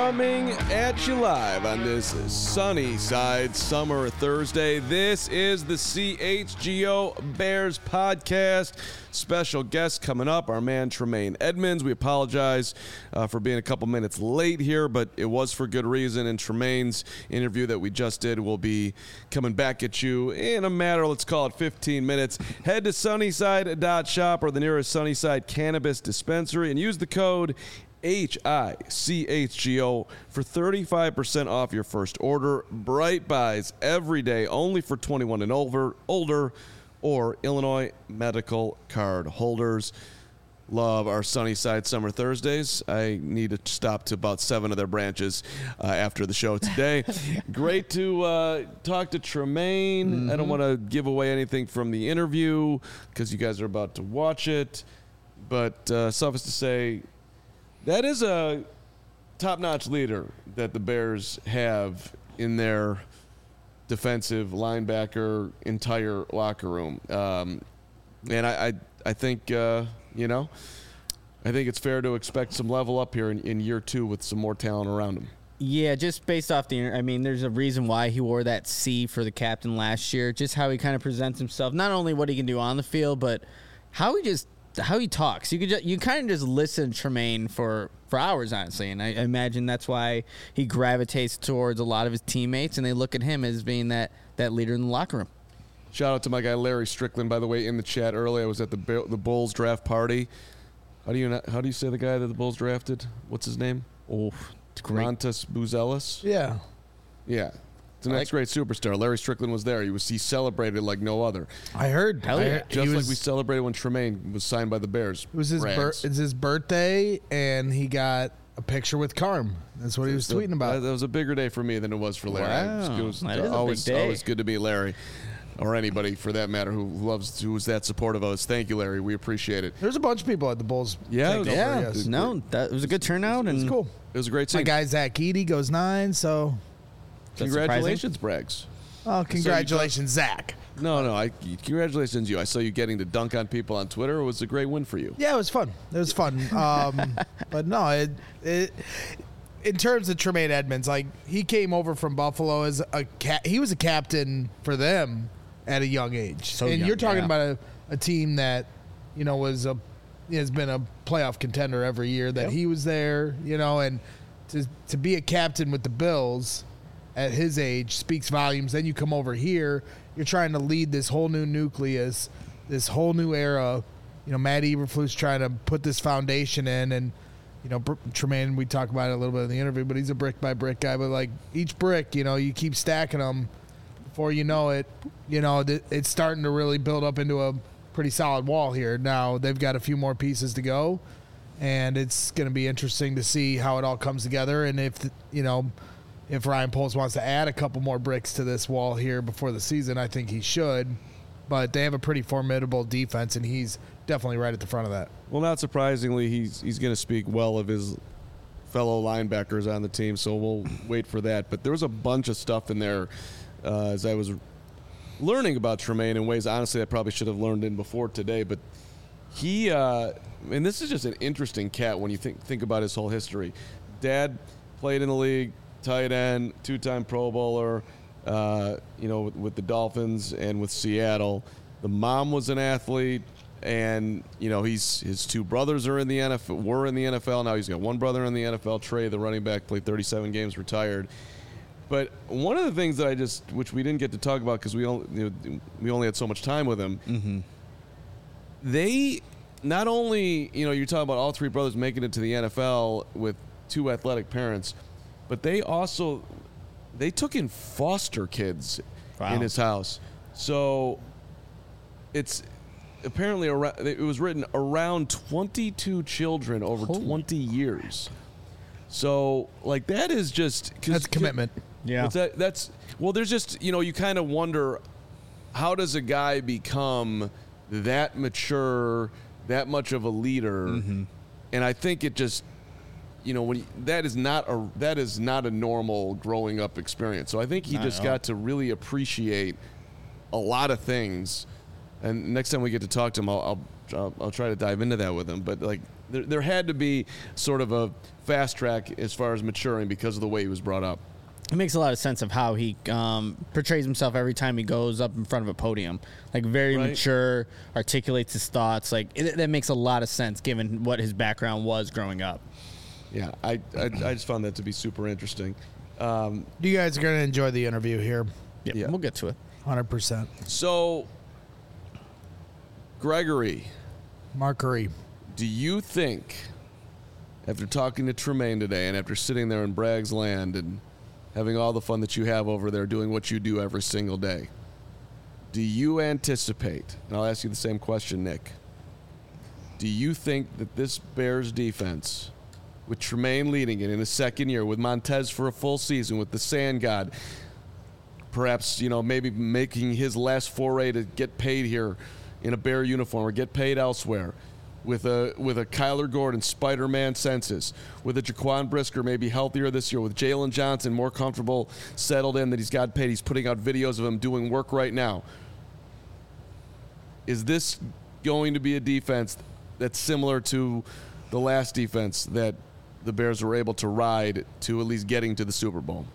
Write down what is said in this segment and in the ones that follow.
Coming at you live on this sunny side summer Thursday. This is the CHGO Bears podcast. Special guest coming up, our man Tremaine Edmunds. We apologize for being a couple minutes late here, but it was for good reason. And Tremaine's interview that we just did will be coming back at you in a matter, let's call it 15 minutes. Head to Sunnyside.shop or the nearest Sunnyside Cannabis Dispensary and use the code HICHGO for 35% off your first order. Bright Buys every day, only for 21 and older, or Illinois medical card holders. Love our Sunnyside Summer Thursdays. I need to stop to about 7 of their branches after the show today. Great to talk to Tremaine. Mm-hmm. I don't want to give away anything from the interview because you guys are about to watch it. But suffice to say, that is a top-notch leader that the Bears have in their defensive linebacker entire locker room. And I think, I think it's fair to expect some level up here in year 2 with some more talent around him. Yeah, just based off there's a reason why he wore that C for the captain last year, just how he kind of presents himself, not only what he can do on the field, but how he talks. You kind of just listen to Tremaine for hours, honestly, and I imagine that's why he gravitates towards a lot of his teammates, and they look at him as being that leader in the locker room. Shout out to my guy Larry Strickland, by the way, in the chat earlier. I was at the Bulls draft party. How do you say the guy that the Bulls drafted? What's his name? Oh, Montas Buzelis? Yeah. Yeah. It's the next great superstar. Larry Strickland was there. He celebrated like no other. I heard. Just like we celebrated when Tremaine was signed by the Bears. It was his birthday, and he got a picture with Carm. That's what he was tweeting about. That was a bigger day for me than it was for Larry. Wow. It was that is always a big day. Always good to meet Larry, or anybody for that matter who was that supportive of us. Thank you, Larry. We appreciate it. There's a bunch of people at the Bulls. Yeah. That was a good turnout. It was cool. It was a great scene. My guy Zach Eady goes 9, so... Congratulations, Braggs. Oh, congratulations, Zach. No, congratulations you. I saw you getting to dunk on people on Twitter. It was a great win for you. Yeah, it was fun. But no, in terms of Tremaine Edmunds, like, he came over from Buffalo as he was a captain for them at a young age. You're talking about a team that, has been a playoff contender every year that he was there, and to be a captain with the Bills at his age speaks volumes. Then you come over here, you're trying to lead this whole new nucleus, this whole new era. Matt Eberflus trying to put this foundation in, and Tremaine, we talk about it a little bit in the interview, but he's a brick by brick guy. But like each brick, you keep stacking them. Before you know it, it's starting to really build up into a pretty solid wall here. Now they've got a few more pieces to go, and it's going to be interesting to see how it all comes together, and if Ryan Poles wants to add a couple more bricks to this wall here before the season, I think he should. But they have a pretty formidable defense, and he's definitely right at the front of that. Well, not surprisingly, he's going to speak well of his fellow linebackers on the team, so we'll wait for that. But there was a bunch of stuff in there as I was learning about Tremaine in ways, honestly, I probably should have learned in before today. But he and this is just an interesting cat when you think about his whole history. Dad played in the league, tight end, 2-time Pro Bowler, with the Dolphins and with Seattle. The mom was an athlete, and his 2 brothers were in the NFL. Now he's got 1 brother in the NFL. Trey, the running back, played 37 games, retired. But one of the things that which we didn't get to talk about because we only had so much time with him. Mm-hmm. They not only you're talking about all 3 brothers making it to the NFL with 2 athletic parents. But they took in foster kids in his house. So it's apparently it was written around 22 children over 20 years. So like that is just that's commitment. Yeah. There's just you kind of wonder, how does a guy become that mature, that much of a leader? Mm-hmm. And I think it just that is not a normal growing up experience. So I think he just got to really appreciate a lot of things And next time we get to talk to him, I'll try to dive into that with him. But like, there had to be sort of a fast track as far as maturing because of the way he was brought up. It makes a lot of sense of how he portrays himself every time he goes up in front of a podium. Like, very mature, articulates his thoughts. Like, that makes a lot of sense given what his background was growing up. Yeah, I just found that to be super interesting. You guys are going to enjoy the interview here. Yeah, we'll get to it. 100%. So, Gregory. Markery. Do you think, after talking to Tremaine today and after sitting there in Bragg's Land and having all the fun that you have over there doing what you do every single day, do you anticipate, and I'll ask you the same question, Nick, do you think that this Bears defense, with Tremaine leading it in his second year, with Montez for a full season, with the Sand God, perhaps, maybe making his last foray to get paid here in a Bear uniform or get paid elsewhere, with a Kyler Gordon Spider-Man senses, with a Jaquan Brisker maybe healthier this year, with Jalen Johnson more comfortable, settled in, that he's got paid. He's putting out videos of him doing work right now. Is this going to be a defense that's similar to the last defense that the Bears were able to ride to at least getting to the Super Bowl?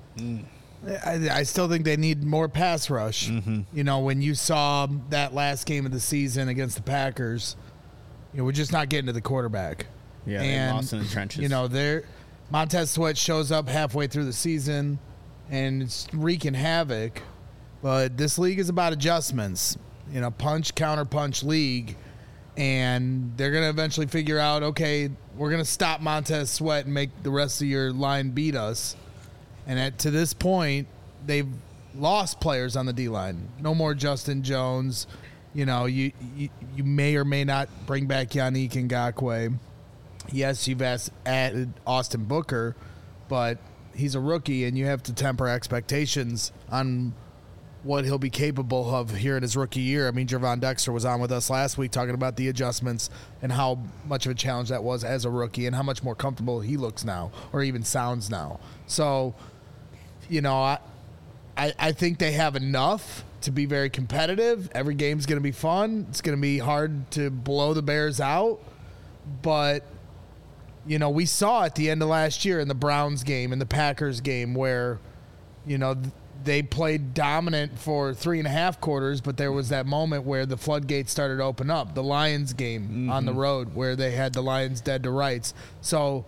I still think they need more pass rush. Mm-hmm. When you saw that last game of the season against the Packers, we're just not getting to the quarterback. Yeah, they lost in the trenches. Montez Sweat shows up halfway through the season, and it's wreaking havoc. But this league is about adjustments. Punch, counter punch league. And they're going to eventually figure out, okay, we're going to stop Montez Sweat and make the rest of your line beat us. And to this point, they've lost players on the D-line. No more Justin Jones. You may or may not bring back Yannick Ngakoue. Yes, you've added Austin Booker, but he's a rookie, and you have to temper expectations on what he'll be capable of here in his rookie year. I mean, Gervon Dexter was on with us last week talking about the adjustments and how much of a challenge that was as a rookie and how much more comfortable he looks now or even sounds now. So, I think they have enough to be very competitive. Every game's going to be fun. It's going to be hard to blow the Bears out. But, we saw at the end of last year in the Browns game and the Packers game where, they played dominant for 3.5 quarters, but there was that moment where the floodgates started to open up. The Lions game on the road where they had the Lions dead to rights. So,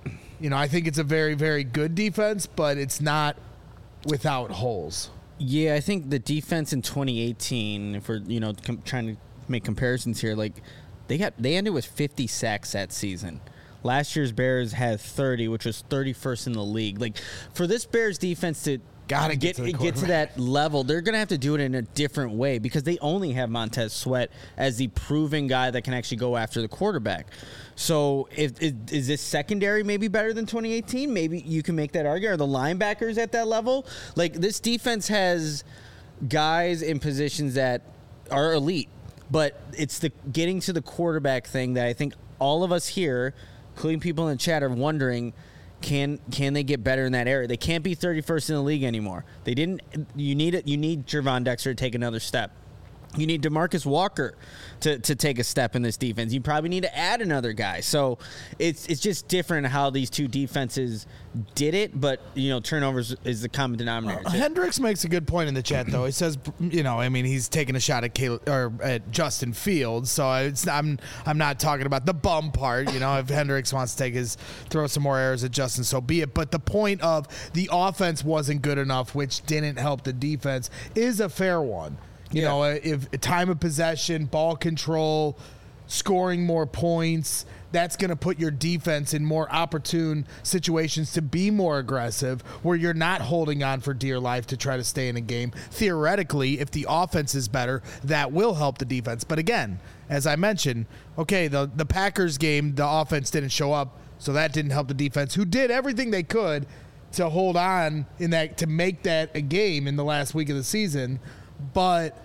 I think it's a very, very good defense, but it's not without holes. Yeah, I think the defense in 2018, if we're trying to make comparisons here, like they ended with 50 sacks that season. Last year's Bears had 30, which was 31st in the league. Like, for this Bears defense to get to that level, they're going to have to do it in a different way because they only have Montez Sweat as the proven guy that can actually go after the quarterback. So is this secondary maybe better than 2018? Maybe you can make that argument. Are the linebackers at that level? Like, this defense has guys in positions that are elite, but it's the getting to the quarterback thing that I think all of us here, including people in the chat, are wondering, can they get better in that area? They can't be 31st in the league anymore. You need Gervon Dexter to take another step. You need DeMarcus Walker to take a step in this defense. You probably need to add another guy. So it's just different how these two defenses did it, but turnovers is the common denominator. Hendricks makes a good point in the chat, though. He says, he's taking a shot at Justin Fields. So I'm not talking about the bum part. If Hendricks wants to throw some more errors at Justin, so be it. But the point of the offense wasn't good enough, which didn't help the defense, is a fair one. If time of possession, ball control, scoring more points, that's going to put your defense in more opportune situations to be more aggressive, where you're not holding on for dear life to try to stay in a game. Theoretically, if the offense is better, that will help the defense. But again, as I mentioned, okay, the Packers game, the offense didn't show up, so that didn't help the defense, who did everything they could to hold on to make that a game in the last week of the season. But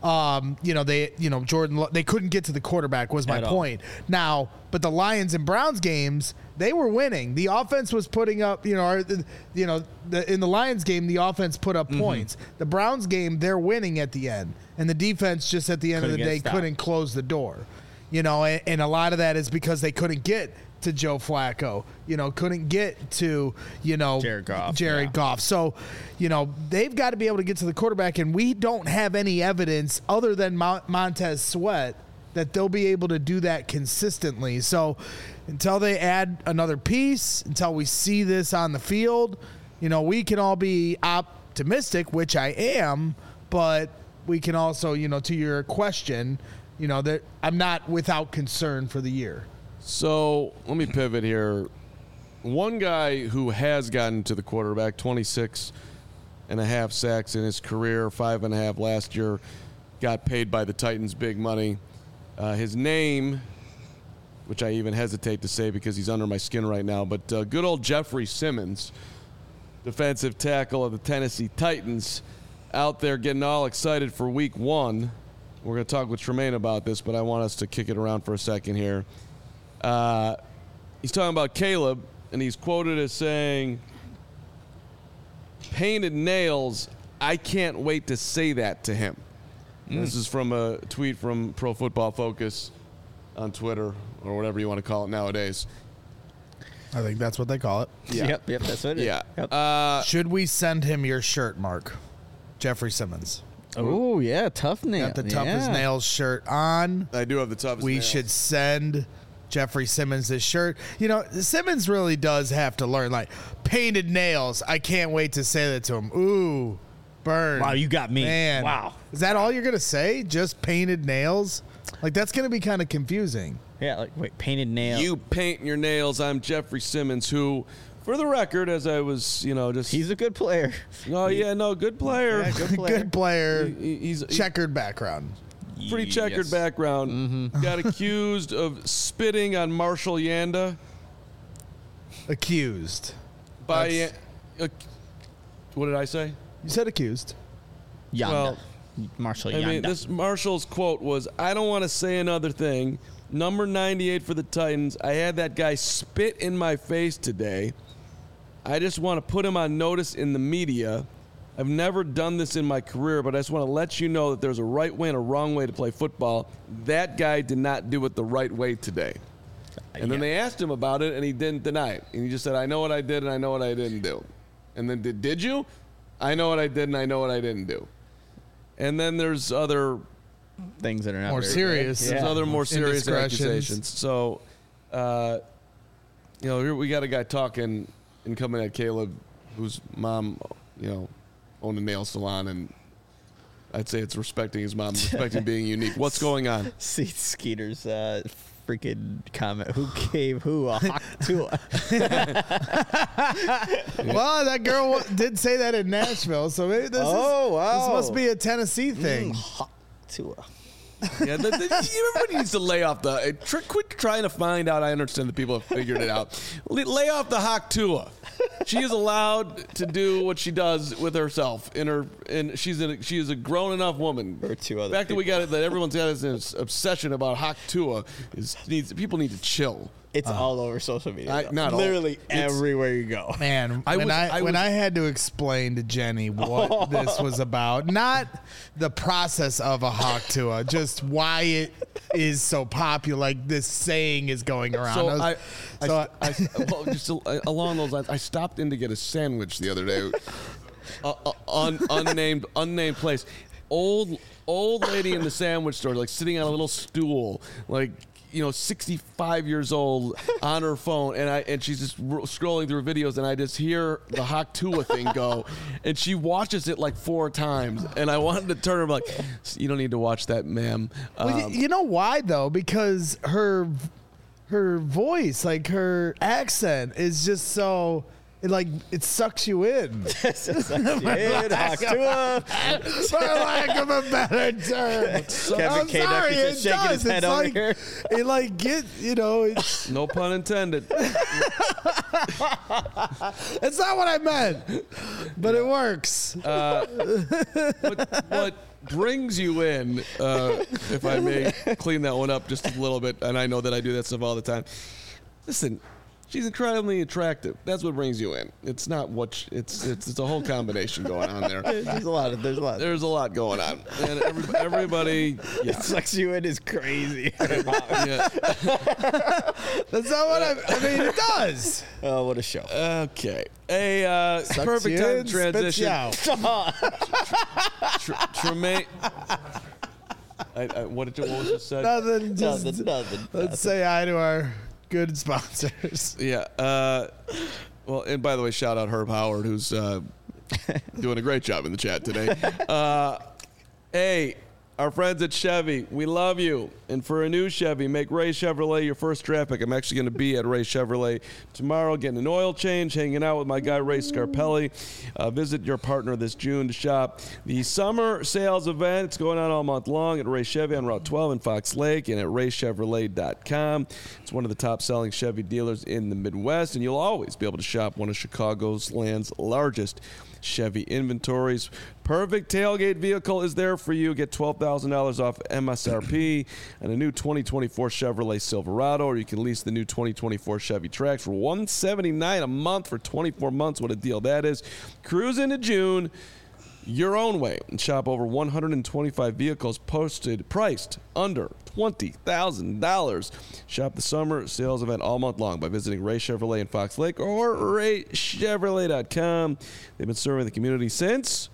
Jordan, they couldn't get to the quarterback was my point. Now, but the Lions and Browns games, they were winning. The offense was putting up, in the Lions game, the offense put up points. The Browns game, they're winning at the end. and the defense just at the end of the Couldn't day get stopped. couldn't close the door. And a lot of that is because they couldn't get to Joe Flacco, couldn't get to, Jared Goff, Jared yeah. Goff. So, they've got to be able to get to the quarterback, and we don't have any evidence other than Montez Sweat that they'll be able to do that consistently. So until they add another piece, until we see this on the field, we can all be optimistic, which I am, but we can also, to your question, that I'm not without concern for the year. So let me pivot here. One guy who has gotten to the quarterback, 26.5 sacks in his career, 5.5 last year, got paid by the Titans big money. His name, which I even hesitate to say because he's under my skin right now, but good old Jeffrey Simmons, defensive tackle of the Tennessee Titans, out there getting all excited for week 1. We're going to talk with Tremaine about this, but I want us to kick it around for a second here. He's talking about Caleb, and he's quoted as saying, "Painted nails, I can't wait to say that to him." This is from a tweet from Pro Football Focus on Twitter, or whatever you want to call it nowadays. I think that's what they call it. Yeah. Yep, that's what it is. Yeah. Yep. Should we send him your shirt, Mark? Jeffrey Simmons. Oh, yeah, tough nail. Got the toughest nails shirt on. I do have the toughest We nails. should send Jeffrey Simmons this shirt. Simmons really does have to learn, painted nails. I can't wait to say that to him. Ooh, burn. Wow, you got me. Man. Wow. Is that all you're going to say? Just painted nails? That's going to be kind of confusing. Yeah, wait, painted nail. You paint your nails. I'm Jeffrey Simmons, who, for the record, as I was, just... He's a good player. Oh, yeah, no, good player. Yeah, good player. Good player. He's Checkered background. pretty checkered Yes. background. Mm-hmm. Got accused of spitting on Marshall Yanda Accused. by... what did I say? You said accused. Yanda. Well, Marshall I Yanda. mean, this Marshall's quote was, "I don't want to say another thing. Number 98 for the Titans. I had that guy spit in my face today. I just want to put him on notice in the media. I've never done this in my career, but I just want to let you know that there's a right way and a wrong way to play football. That guy did not do it the right way today." And then they asked him about it, and he didn't deny it. And he just said, "I know what I did, and I know what I didn't do." And then, did you? "I know what I did, and I know what I didn't do." And then there's other Things that are not More very serious. good. there's Yeah. other more serious Indiscretions. accusations. So, here we got a guy talking and coming at Caleb, whose mom, owned a nail salon, and I'd say it's respecting his mom, respecting being unique. What's going on? See Skeeter's freaking comment. Who gave who a hawk to Well, that girl did say that in Nashville, so maybe this this must be a Tennessee thing. hawk to a. Yeah, everybody needs to lay off the. Quit trying to find out. I understand that people have figured it out. Lay off the Hawk Tua. She is allowed to do what she does with herself. She is a grown enough woman. Or two other The fact that we people. got that everyone's got this obsession about Hawk Tua people need to chill. It's all over social media. though. not all. Literally It's- everywhere you go. Man, I when was- I had to explain to Jenny what this was about, not the process of a hawk Tua, just why it is so popular. Like this saying is going around. So just along those lines, I stopped in to get a sandwich the other day. Unnamed place. Old lady in the sandwich store, sitting on a little stool, 65 years old on her phone, and she's just scrolling through videos, and I just hear the Hawk Tua thing go, and she watches it 4 times, and I wanted to turn her you don't need to watch that, ma'am. Well, you know why though? Because her voice, her accent, is just so. It sucks you in. Hawk to a. For lack of a better term. Kevin I'm K. sorry, Duffy's it just shaking his does. head It's over like, here. It's No pun intended. it's not what I meant, but it works. What brings you in, if I may clean that one up just a little bit, and I know that I do that stuff all the time. Listen, she's incredibly attractive. That's what brings you in. It's not what it's a whole combination going on there. There's a lot. There's a lot going on, and everybody. Yeah. It sucks you in is crazy. Yeah. That's not what I mean. It does. Oh, what a show. Okay. A perfect time to transition. Tremaine. What was it said? Nothing. Just Nothing. let's say hi to our good sponsors. Yeah. Well, and by the way, shout out Herb Howard, who's doing a great job in the chat today. Hey, our friends at Chevy, we love you. And for a new Chevy, make Ray Chevrolet your first draft pick. I'm actually going to be at Ray Chevrolet tomorrow, getting an oil change, hanging out with my guy Ray Scarpelli. Visit your partner this June to shop the summer sales event. It's going on all month long at Ray Chevy on Route 12 in Fox Lake and at raychevrolet.com. It's one of the top-selling Chevy dealers in the Midwest, and you'll always be able to shop one of Chicago's land's largest Chevy inventories. Perfect tailgate vehicle is there for you. Get $12,000 off MSRP and a new 2024 Chevrolet Silverado, or you can lease the new 2024 Chevy Trax for $179 a month for 24 months. What a deal that is. Cruise into June your own way and shop over 125 vehicles priced under $20,000. Shop the summer sales event all month long by visiting Ray Chevrolet in Fox Lake or raychevrolet.com. They've been serving the community since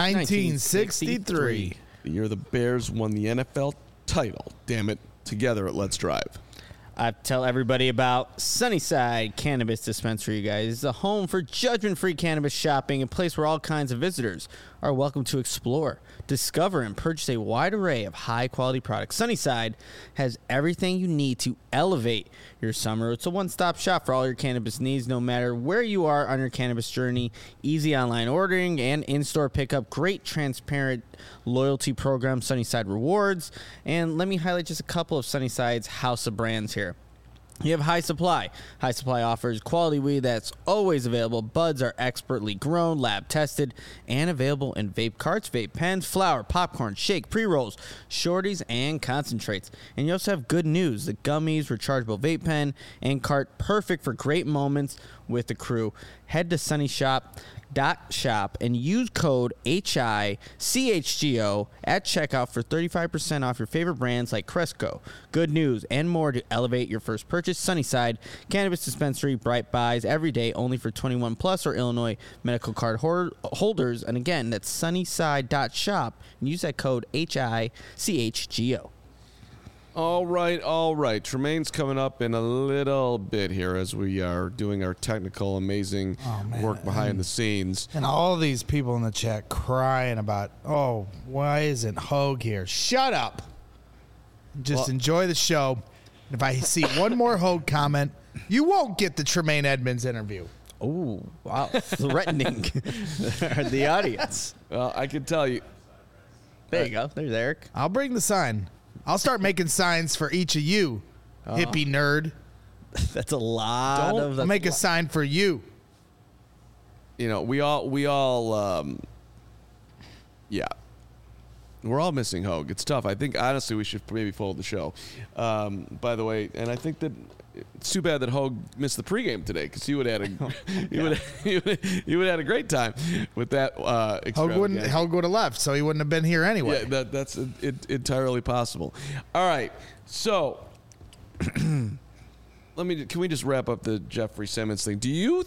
1963. the year the Bears won the NFL title. Damn it. Together at Let's Drive. I tell everybody about Sunnyside Cannabis Dispensary, you guys. It's a home for judgment-free cannabis shopping, a place where all kinds of visitors are welcome to explore, discover, and purchase a wide array of high-quality products. Sunnyside has everything you need to elevate your summer. It's a one-stop shop for all your cannabis needs, no matter where you are on your cannabis journey. Easy online ordering and in-store pickup. Great, transparent loyalty program, Sunnyside Rewards. And let me highlight just a couple of Sunnyside's house of brands here. You have High Supply. High Supply offers quality weed that's always available. Buds are expertly grown, lab tested, and available in vape carts, vape pens, flour, popcorn, shake, pre-rolls, shorties, and concentrates. And you also have good news. The gummies, rechargeable vape pen, and cart, perfect for great moments with the crew. Head to sunnyshop.shop and use code HICHGO at checkout for 35% off your favorite brands like Cresco, Good News, and more to elevate your first purchase. Sunnyside Cannabis Dispensary, Bright Buys every day, only for 21 plus or Illinois medical card holders. And again, that's sunnyside.shop and use that code HICHGO. All right. Tremaine's coming up in a little bit here as we are doing our technical, amazing work behind the scenes. And all these people in the chat crying about, oh, why isn't Hogue here? Shut up. Just enjoy the show. If I see one more Hogue comment, you won't get the Tremaine Edmonds interview. Oh, wow. Threatening the audience. Well, I can tell you. There you go. There's Eric. I'll bring the sign. I'll start making signs for each of you, hippie nerd. That's a lot of... I'll make a sign for you. You know, we all, yeah. We're all missing Hogue. It's tough. I think, honestly, we should maybe fold the show. By the way, and I think that it's too bad that Hogue missed the pregame today because he would have had a great time with that. Hogue would have left, so he wouldn't have been here anyway. Yeah, that's entirely possible. All right, so can we just wrap up the Jeffrey Simmons thing? Do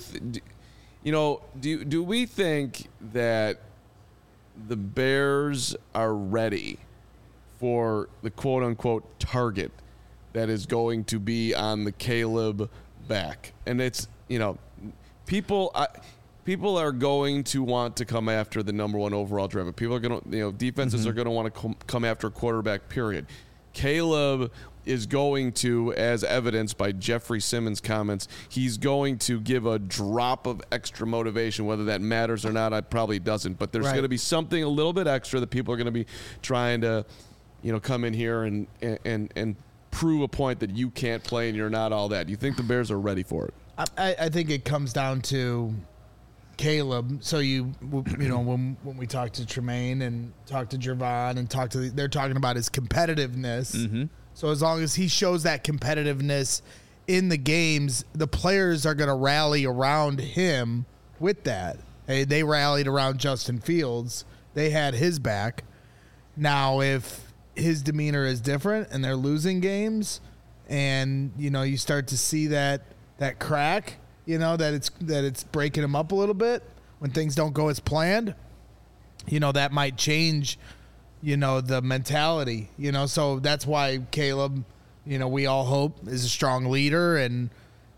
we think that the Bears are ready for the quote unquote target that is going to be on the Caleb back? And it's, people are going to want to come after the number one overall driver. People are going to, defenses are going to want to come after a quarterback, period. Caleb is going to, as evidenced by Jeffrey Simmons' comments, he's going to give a drop of extra motivation. Whether that matters or not, it probably doesn't. But there's going to be something a little bit extra that people are going to be trying to, come in here and prove a point that you can't play and you're not all that. Do you think the Bears are ready for it? I think it comes down to Caleb. So when we talk to Tremaine and talk to Jervon and they're talking about his competitiveness. Mm-hmm. So as long as he shows that competitiveness in the games, the players are going to rally around him with that. They rallied around Justin Fields. They had his back. Now, if his demeanor is different and they're losing games, and you start to see that crack, that it's breaking him up a little bit when things don't go as planned, that might change, the mentality. So that's why Caleb, we all hope is a strong leader and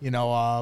a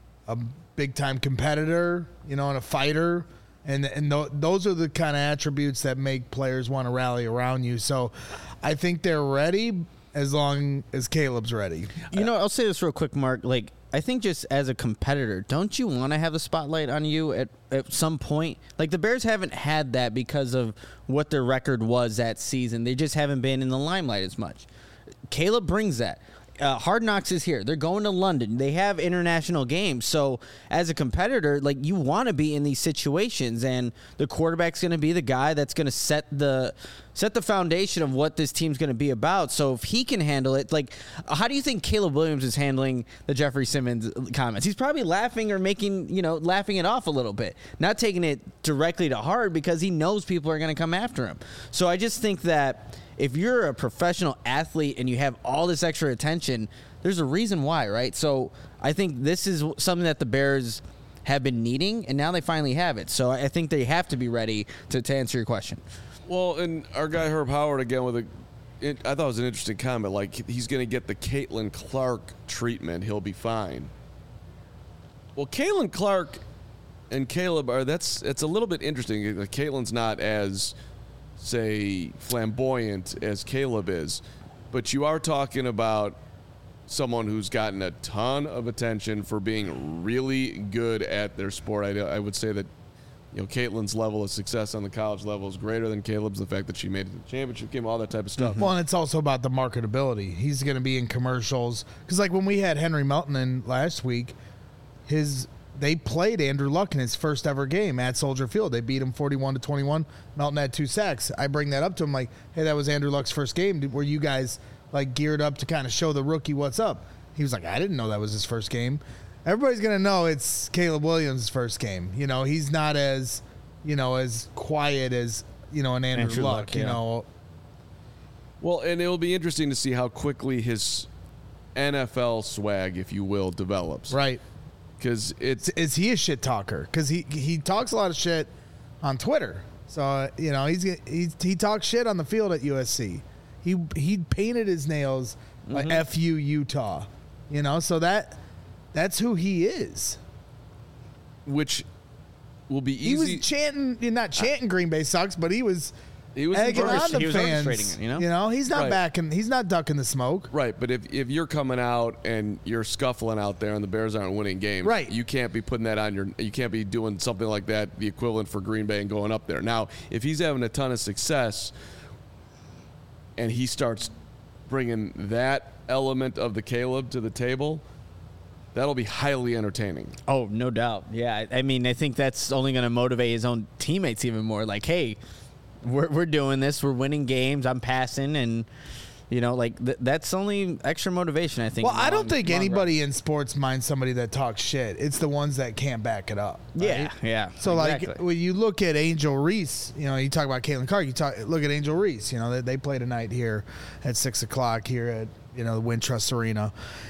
big time competitor, and a fighter. And those are the kind of attributes that make players want to rally around you. So I think they're ready as long as Caleb's ready. I'll say this real quick, Mark. Like, I think just as a competitor, don't you want to have the spotlight on you at some point? Like, the Bears haven't had that because of what their record was that season. They just haven't been in the limelight as much. Caleb brings that. Hard Knocks is here. They're going to London. They have international games. So as a competitor, like, you want to be in these situations, and the quarterback's going to be the guy that's going to set the foundation of what this team's going to be about. So if he can handle it, like, how do you think Caleb Williams is handling the Jeffrey Simmons comments? He's probably laughing or laughing it off a little bit, not taking it directly to heart because he knows people are going to come after him. So I just think that if you're a professional athlete and you have all this extra attention, there's a reason why, right? So I think this is something that the Bears have been needing, and now they finally have it. So I think they have to be ready to answer your question. Well, and our guy Herb Howard again with I thought it was an interesting comment. Like, he's going to get the Caitlin Clark treatment. He'll be fine. Well, Caitlin Clark and Caleb it's a little bit interesting. Caitlin's not as, say, flamboyant as Caleb is, but you are talking about someone who's gotten a ton of attention for being really good at their sport. I would say that Caitlin's level of success on the college level is greater than Caleb's. The fact that she made it to the championship game, all that type of stuff. Well, and it's also about the marketability. He's going to be in commercials because, like, when we had Henry Melton in last week, they played Andrew Luck in his first ever game at Soldier Field. They beat him 41-21. Melton had 2 sacks. I bring that up to him like, hey, that was Andrew Luck's first game. Were you guys like geared up to kind of show the rookie what's up? He was like, I didn't know that was his first game. Everybody's going to know it's Caleb Williams' first game. He's not as, as quiet as, an Andrew Luck, Well, and it'll be interesting to see how quickly his NFL swag, if you will, develops. Right. Because is he a shit talker? Because he talks a lot of shit on Twitter. So he talks shit on the field at USC. He painted his nails like FU Utah. So that's who he is. Which will be easy. He was chanting, not chanting Green Bay sucks, but he was egging on the fans. He's not backing. He's not ducking the smoke. Right, but if you're coming out and you're scuffling out there and the Bears aren't winning games, right, you can't be putting that on you can't be doing something like that, the equivalent for Green Bay and going up there. Now, if he's having a ton of success and he starts bringing that element of the Caleb to the table, that'll be highly entertaining. Oh, no doubt. Yeah, I mean, I think that's only going to motivate his own teammates even more. Like, hey, we're doing this. We're winning games. I'm passing, and that's only extra motivation, I think. Well, I don't think anybody in sports minds somebody that talks shit. It's the ones that can't back it up. Right? Yeah. So exactly. Like when you look at Angel Reese, you talk about Caitlin Clark. Look at Angel Reese. They play tonight here at 6:00 here at the Wintrust Arena.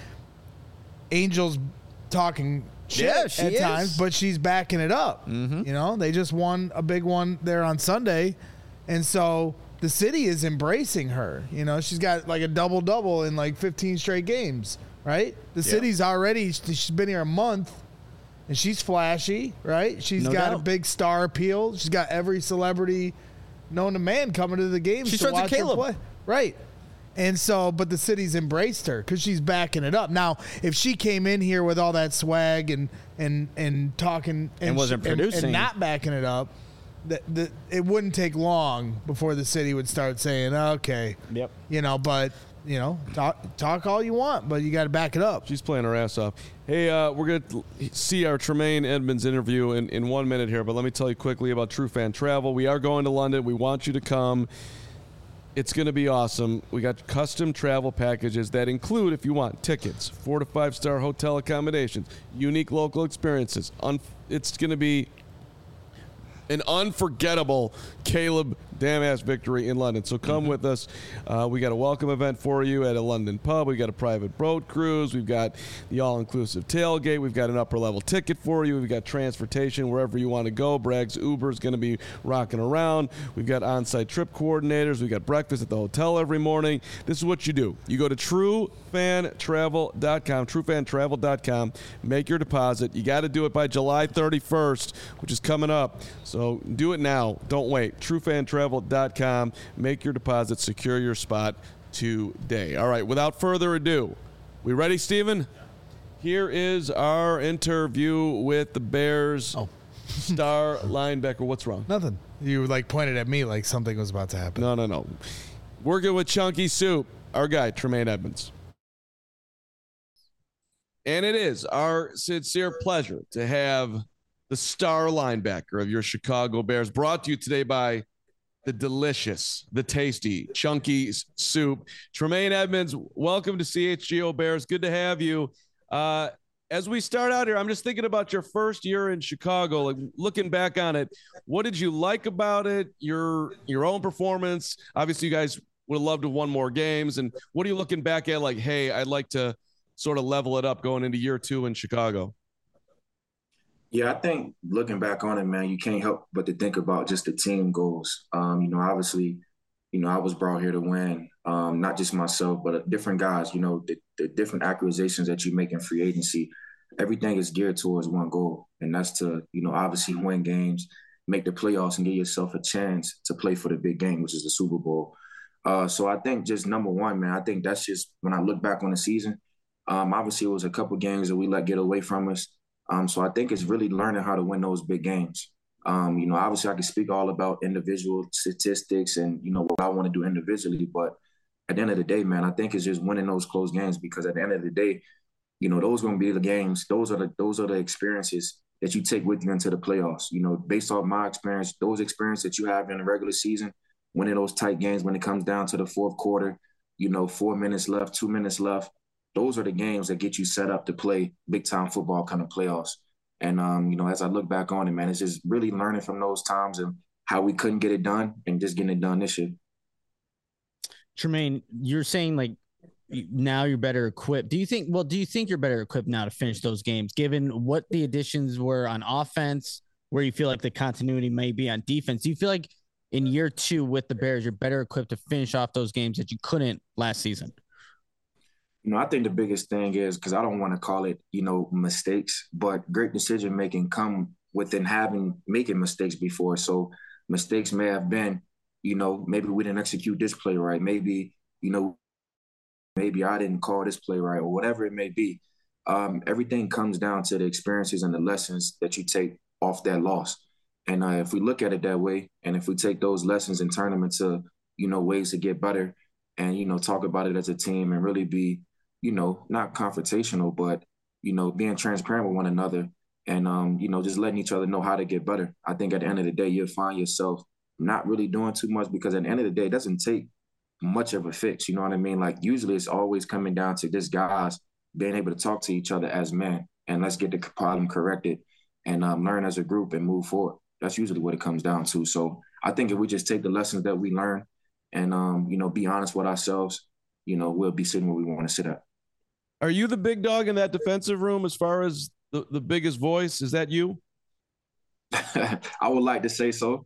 Angel's talking shit at times, but she's backing it up. Mm-hmm. They just won a big one there on Sunday, and so the city is embracing her. She's got like a double-double in like 15 straight games, right? The city's already, she's been here a month, and she's flashy, right? She's got a big star appeal. She's got every celebrity known to man coming to the games to watch her play. Right. And so, but the city's embraced her because she's backing it up. Now, if she came in here with all that swag and talking and wasn't producing and not backing it up, it wouldn't take long before the city would start saying, "Okay, yep, but talk all you want, but you got to back it up." She's playing her ass off. Hey, we're gonna see our Tremaine Edmonds interview in 1 minute here, but let me tell you quickly about True Fan Travel. We are going to London. We want you to come. It's going to be awesome. We got custom travel packages that include, if you want, tickets, 4 to 5 star hotel accommodations, unique local experiences. It's going to be an unforgettable Caleb Damask victory in London. So come with us. We got a welcome event for you at a London pub. We got a private boat cruise. We've got the all-inclusive tailgate. We've got an upper-level ticket for you. We've got transportation wherever you want to go. Bragg's Uber is going to be rocking around. We've got on-site trip coordinators. We've got breakfast at the hotel every morning. This is what you do. You go to truefantravel.com, truefantravel.com, make your deposit. You got to do it by July 31st, which is coming up. So do it now. Don't wait. truefantravel.com. Make your deposit. Secure your spot today. All right, without further ado, we ready, Steven? Here is our interview with the Bears star linebacker. What's wrong? Nothing. You pointed at me like something was about to happen. No. Working with Chunky Soup, our guy, Tremaine Edmunds. And it is our sincere pleasure to have the star linebacker of your Chicago Bears, brought to you today by the delicious, the tasty, Chunky Soup. Tremaine Edmunds, welcome to CHGO Bears. Good to have you. As we start out here, I'm just thinking about your first year in Chicago. Looking back on it, what did you like about it? Your own performance. Obviously, you guys would have loved to have won more games. And what are you looking back at? Hey, I'd like to sort of level it up going into year 2 in Chicago. Yeah, I think looking back on it, man, you can't help but to think about just the team goals. Obviously, I was brought here to win, not just myself, but different guys, the different acquisitions that you make in free agency, everything is geared towards one goal. And that's to, obviously win games, make the playoffs and give yourself a chance to play for the big game, which is the Super Bowl. So I think just number one, man, I think that's just when I look back on the season, obviously it was a couple games that we let get away from us. So I think it's really learning how to win those big games. Obviously I can speak all about individual statistics and, what I want to do individually. But at the end of the day, man, I think it's just winning those close games, because at the end of the day, those are going to be the games. Those are the experiences that you take with you into the playoffs. Based off my experience, those experiences that you have in the regular season, winning those tight games when it comes down to the fourth quarter, 4 minutes left, 2 minutes left. Those are the games that get you set up to play big-time football kind of playoffs. And, as I look back on it, man, it's just really learning from those times and how we couldn't get it done and just getting it done this year. Tremaine, you're saying, now you're better equipped. Do you think you're better equipped now to finish those games, given what the additions were on offense, where you feel like the continuity may be on defense? Do you feel like in year 2 with the Bears, you're better equipped to finish off those games that you couldn't last season? I think the biggest thing is, because I don't want to call it, mistakes, but great decision-making come within making mistakes before. So mistakes may have been, maybe we didn't execute this play right. Maybe, maybe I didn't call this play right, or whatever it may be. Everything comes down to the experiences and the lessons that you take off that loss. And if we look at it that way, and if we take those lessons and turn them into, ways to get better and, talk about it as a team and really be, not confrontational, but, being transparent with one another and, just letting each other know how to get better. I think at the end of the day, you'll find yourself not really doing too much, because at the end of the day, it doesn't take much of a fix. You know what I mean? Usually it's always coming down to just guys being able to talk to each other as men, and let's get the problem corrected and learn as a group and move forward. That's usually what it comes down to. So I think if we just take the lessons that we learn and, be honest with ourselves, we'll be sitting where we want to sit at. Are you the big dog in that defensive room as far as the biggest voice? Is that you? I would like to say so.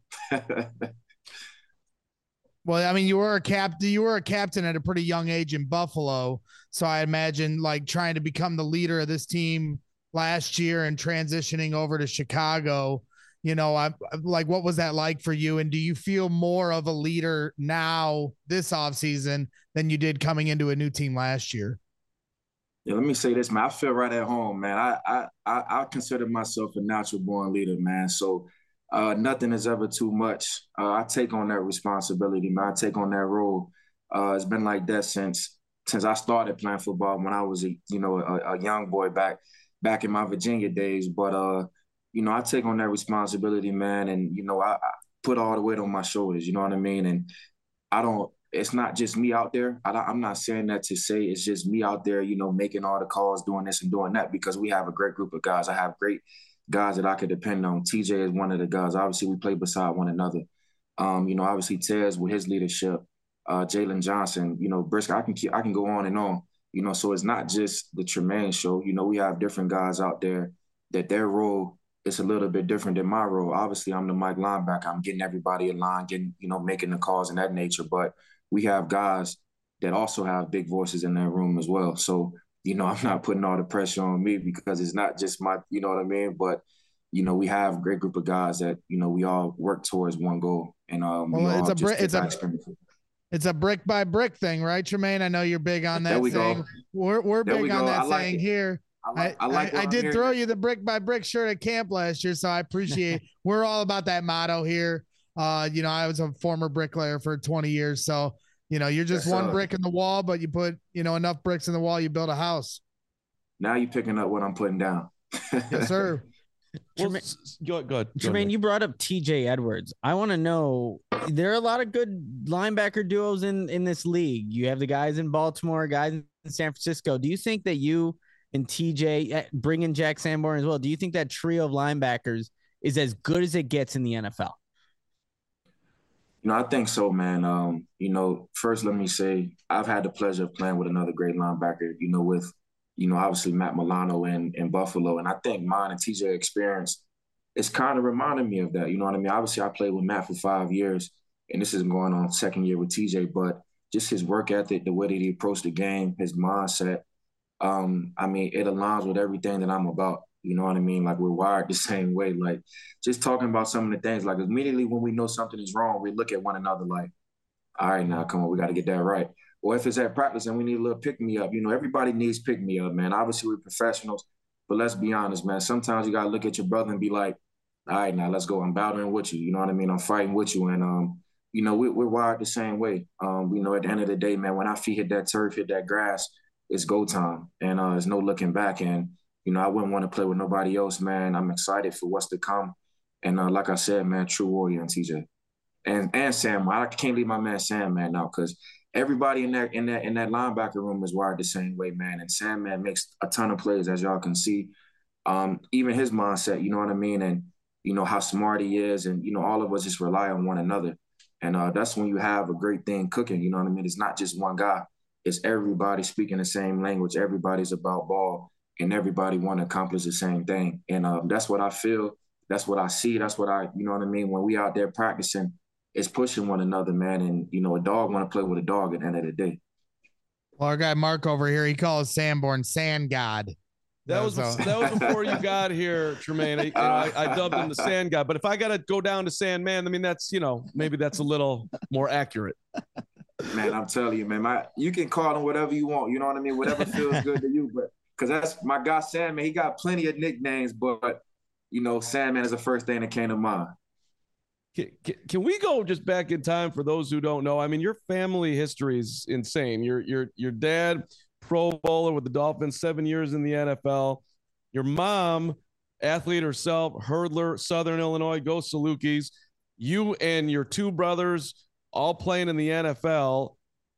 Well, I mean, you were a captain at a pretty young age in Buffalo. So I imagine trying to become the leader of this team last year and transitioning over to Chicago, what was that like for you? And do you feel more of a leader now this offseason than you did coming into a new team last year? Yeah, let me say this, man. I feel right at home, man. I consider myself a natural born leader, man. So nothing is ever too much. I take on that responsibility, man. I take on that role. It's been like that since I started playing football when I was a young boy back in my Virginia days. But I take on that responsibility, man, and I put all the weight on my shoulders. You know what I mean? And it's not just me out there. I'm not saying that to say it's just me out there, making all the calls, doing this and doing that, because we have a great group of guys. I have great guys that I could depend on. TJ is one of the guys. Obviously, we play beside one another. Obviously Tez with his leadership, Jalen Johnson, Briscoe. I can go on and on. So it's not just the Tremaine show. We have different guys out there that their role is a little bit different than my role. Obviously, I'm the Mike linebacker. I'm getting everybody in line, making the calls and that nature. But we have guys that also have big voices in that room as well. So, I'm not putting all the pressure on me because it's not just my, you know what I mean? But, we have a great group of guys that, we all work towards one goal. And it's a brick by brick thing, right, Tremaine? I know you're big on that saying. We're big on that saying here. I did throw you the brick by brick shirt at camp last year, so I appreciate we're all about that motto here. I was a former bricklayer for 20 years, so you're just one brick in the wall, but you put enough bricks in the wall, you build a house. Now you're picking up what I'm putting down. Yes, sir. Well, go ahead. Tremaine, you brought up TJ Edwards. I want to know, there are a lot of good linebacker duos in this league. You have the guys in Baltimore, guys in San Francisco. Do you think that you and TJ, bring in Jack Sanborn as well, do you think that trio of linebackers is as good as it gets in the NFL? I think so, man. First let me say I've had the pleasure of playing with another great linebacker, with obviously Matt Milano in Buffalo. And I think mine and TJ experience is kind of reminding me of that. You know what I mean? Obviously, I played with Matt for 5 years, and this is going on second year with TJ. But just his work ethic, the way that he approached the game, his mindset, it aligns with everything that I'm about. You know what I mean? Like, we're wired the same way. Like, just talking about some of the things, like immediately when we know something is wrong, we look at one another like, all right, now, come on, we got to get that right. Or if it's at practice and we need a little pick-me-up, everybody needs pick-me-up, man. Obviously, we're professionals, but let's be honest, man. Sometimes you got to look at your brother and be like, all right, now, let's go. I'm battling with you. You know what I mean? I'm fighting with you. And, we're wired the same way. At the end of the day, man, when our feet hit that turf, hit that grass, it's go time. And there's no looking back. And, I wouldn't want to play with nobody else, man. I'm excited for what's to come. And like I said, man, true warrior and TJ. And Sam, I can't leave my man Sam, man, now, because everybody in that linebacker room is wired the same way, man. And Sam, man, makes a ton of plays, as y'all can see. Even his mindset, you know what I mean? And, how smart he is. And, all of us just rely on one another. And that's when you have a great thing cooking, you know what I mean? It's not just one guy. It's everybody speaking the same language. Everybody's about ball, and everybody want to accomplish the same thing. And that's what I feel. That's what I see. That's what you know what I mean? When we out there practicing, it's pushing one another, man. And, a dog want to play with a dog at the end of the day. Well, our guy Mark over here, he calls Sanborn Sand God. That was before you got here, Tremaine. I dubbed him the Sand God. But if I got to go down to Sandman, I mean, that's, maybe that's a little more accurate. Man, I'm telling you, man, you can call him whatever you want. You know what I mean? Whatever feels good to you. But because that's my guy, Sandman. He got plenty of nicknames, but, Sandman is the first thing that came to mind. Can we go just back in time for those who don't know? I mean, your family history is insane. Your dad, Pro Bowler with the Dolphins, 7 years in the NFL. Your mom, athlete herself, hurdler, Southern Illinois, go Salukis. You and your two brothers all playing in the NFL.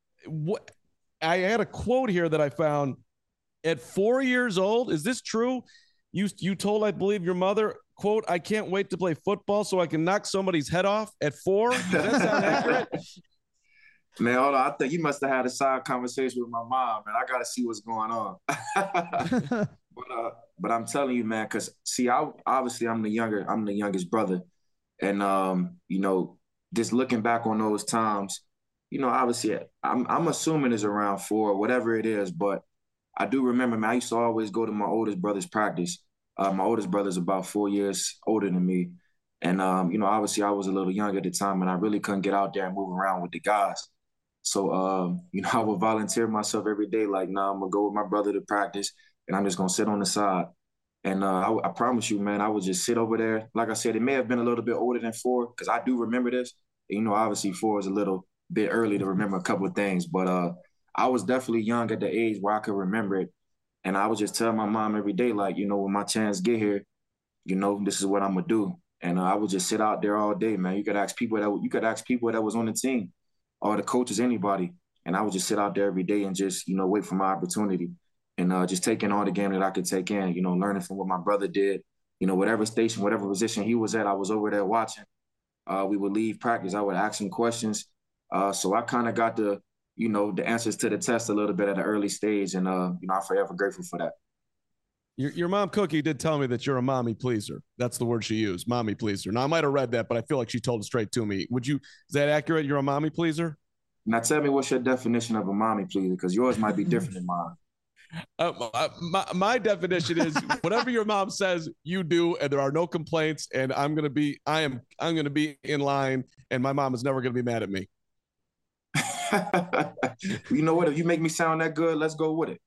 I had a quote here that I found. At 4 years old, is this true? You told, I believe, your mother, quote, "I can't wait to play football so I can knock somebody's head off" at 4? Does that sound accurate? Man, hold on. I think you must have had a side conversation with my mom, man. I got to see what's going on. But I'm telling you, man, because see, I'm the youngest brother, and just looking back on those times, obviously, I'm assuming it's around 4, whatever it is, but I do remember, man, I used to always go to my oldest brother's practice. My oldest brother's about 4 years older than me. And, obviously I was a little young at the time, and I really couldn't get out there and move around with the guys. So, I would volunteer myself every day, like, nah, I'm going to go with my brother to practice, and I'm just going to sit on the side. And I promise you, man, I would just sit over there. Like I said, it may have been a little bit older than 4, because I do remember this. Obviously 4 is a little bit early to remember a couple of things, but I was definitely young at the age where I could remember it. And I would just tell my mom every day, like, when my chance get here, this is what I'm going to do. And I would just sit out there all day, man. You could ask people that was on the team. or the coaches, anybody. And I would just sit out there every day and just, wait for my opportunity and just taking all the game that I could take in, learning from what my brother did, whatever station, whatever position he was at, I was over there watching. We would leave practice. I would ask him questions. So I kind of got the answers to the test a little bit at an early stage. And, I'm forever grateful for that. Your mom, Cookie, did tell me that you're a mommy pleaser. That's the word she used, mommy pleaser. Now, I might have read that, but I feel like she told it straight to me. Is that accurate? You're a mommy pleaser? Now, tell me what's your definition of a mommy pleaser, because yours might be different than mine. My definition is whatever your mom says, you do, and there are no complaints. And I'm gonna be in line, and my mom is never gonna be mad at me. You know what? If you make me sound that good, let's go with it.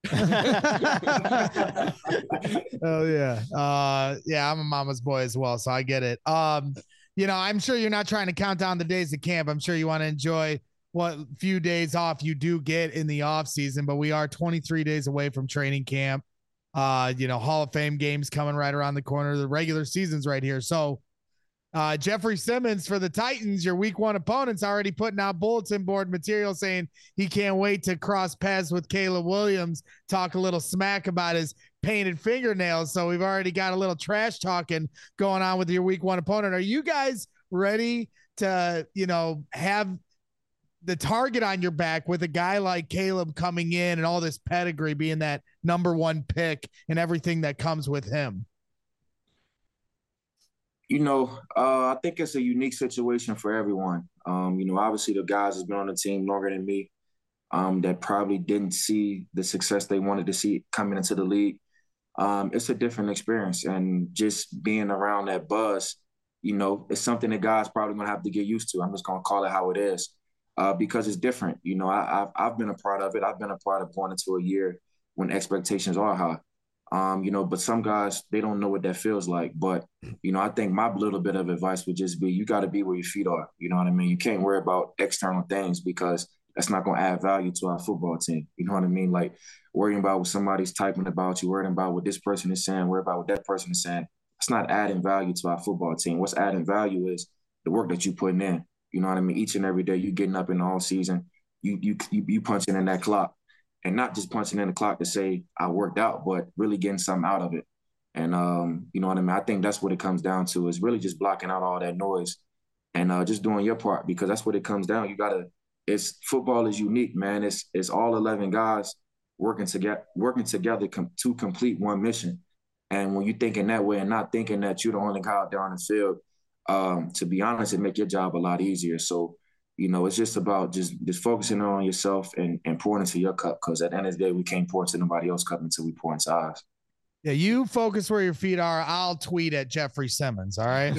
Oh yeah. Yeah, I'm a mama's boy as well, so I get it. I'm sure you're not trying to count down the days of camp. I'm sure you want to enjoy what few days off you do get in the off season, but we are 23 days away from training camp. Hall of Fame games coming right around the corner. The regular season's right here. So Jeffrey Simmons for the Titans, your week 1 opponent's already putting out bulletin board material saying he can't wait to cross paths with Caleb Williams, talk a little smack about his painted fingernails. So we've already got a little trash talking going on with your week 1 opponent. Are you guys ready to, have the target on your back with a guy like Caleb coming in and all this pedigree, being that number 1 pick and everything that comes with him? I think it's a unique situation for everyone. Obviously the guys that's been on the team longer than me, that probably didn't see the success they wanted to see coming into the league. It's a different experience, and just being around that buzz, it's something that guys probably gonna have to get used to. I'm just gonna call it how it is, because it's different. I've been a part of it. I've been a part of going into a year when expectations are high. But some guys, they don't know what that feels like. But, I think my little bit of advice would just be, you got to be where your feet are. You know what I mean? You can't worry about external things, because that's not going to add value to our football team. You know what I mean? Like worrying about what somebody's typing about you, worrying about what this person is saying, worrying about what that person is saying. It's not adding value to our football team. What's adding value is the work that you're putting in. You know what I mean? Each and every day, you getting up in the all season, you punching in that clock. And not just punching in the clock to say I worked out, but really getting something out of it. And, you know what I mean? I think that's what it comes down to, is really just blocking out all that noise and just doing your part, because that's what it comes down. Football is unique, man. It's all 11 guys working together to complete one mission. And when you're thinking that way and not thinking that you're the only guy out there on the field, to be honest, it make your job a lot easier. So, it's just about just focusing on yourself and pouring into your cup, because at the end of the day, we can't pour into nobody else's cup until we pour into ours. Yeah, you focus where your feet are. I'll tweet at Jeffrey Simmons, all right?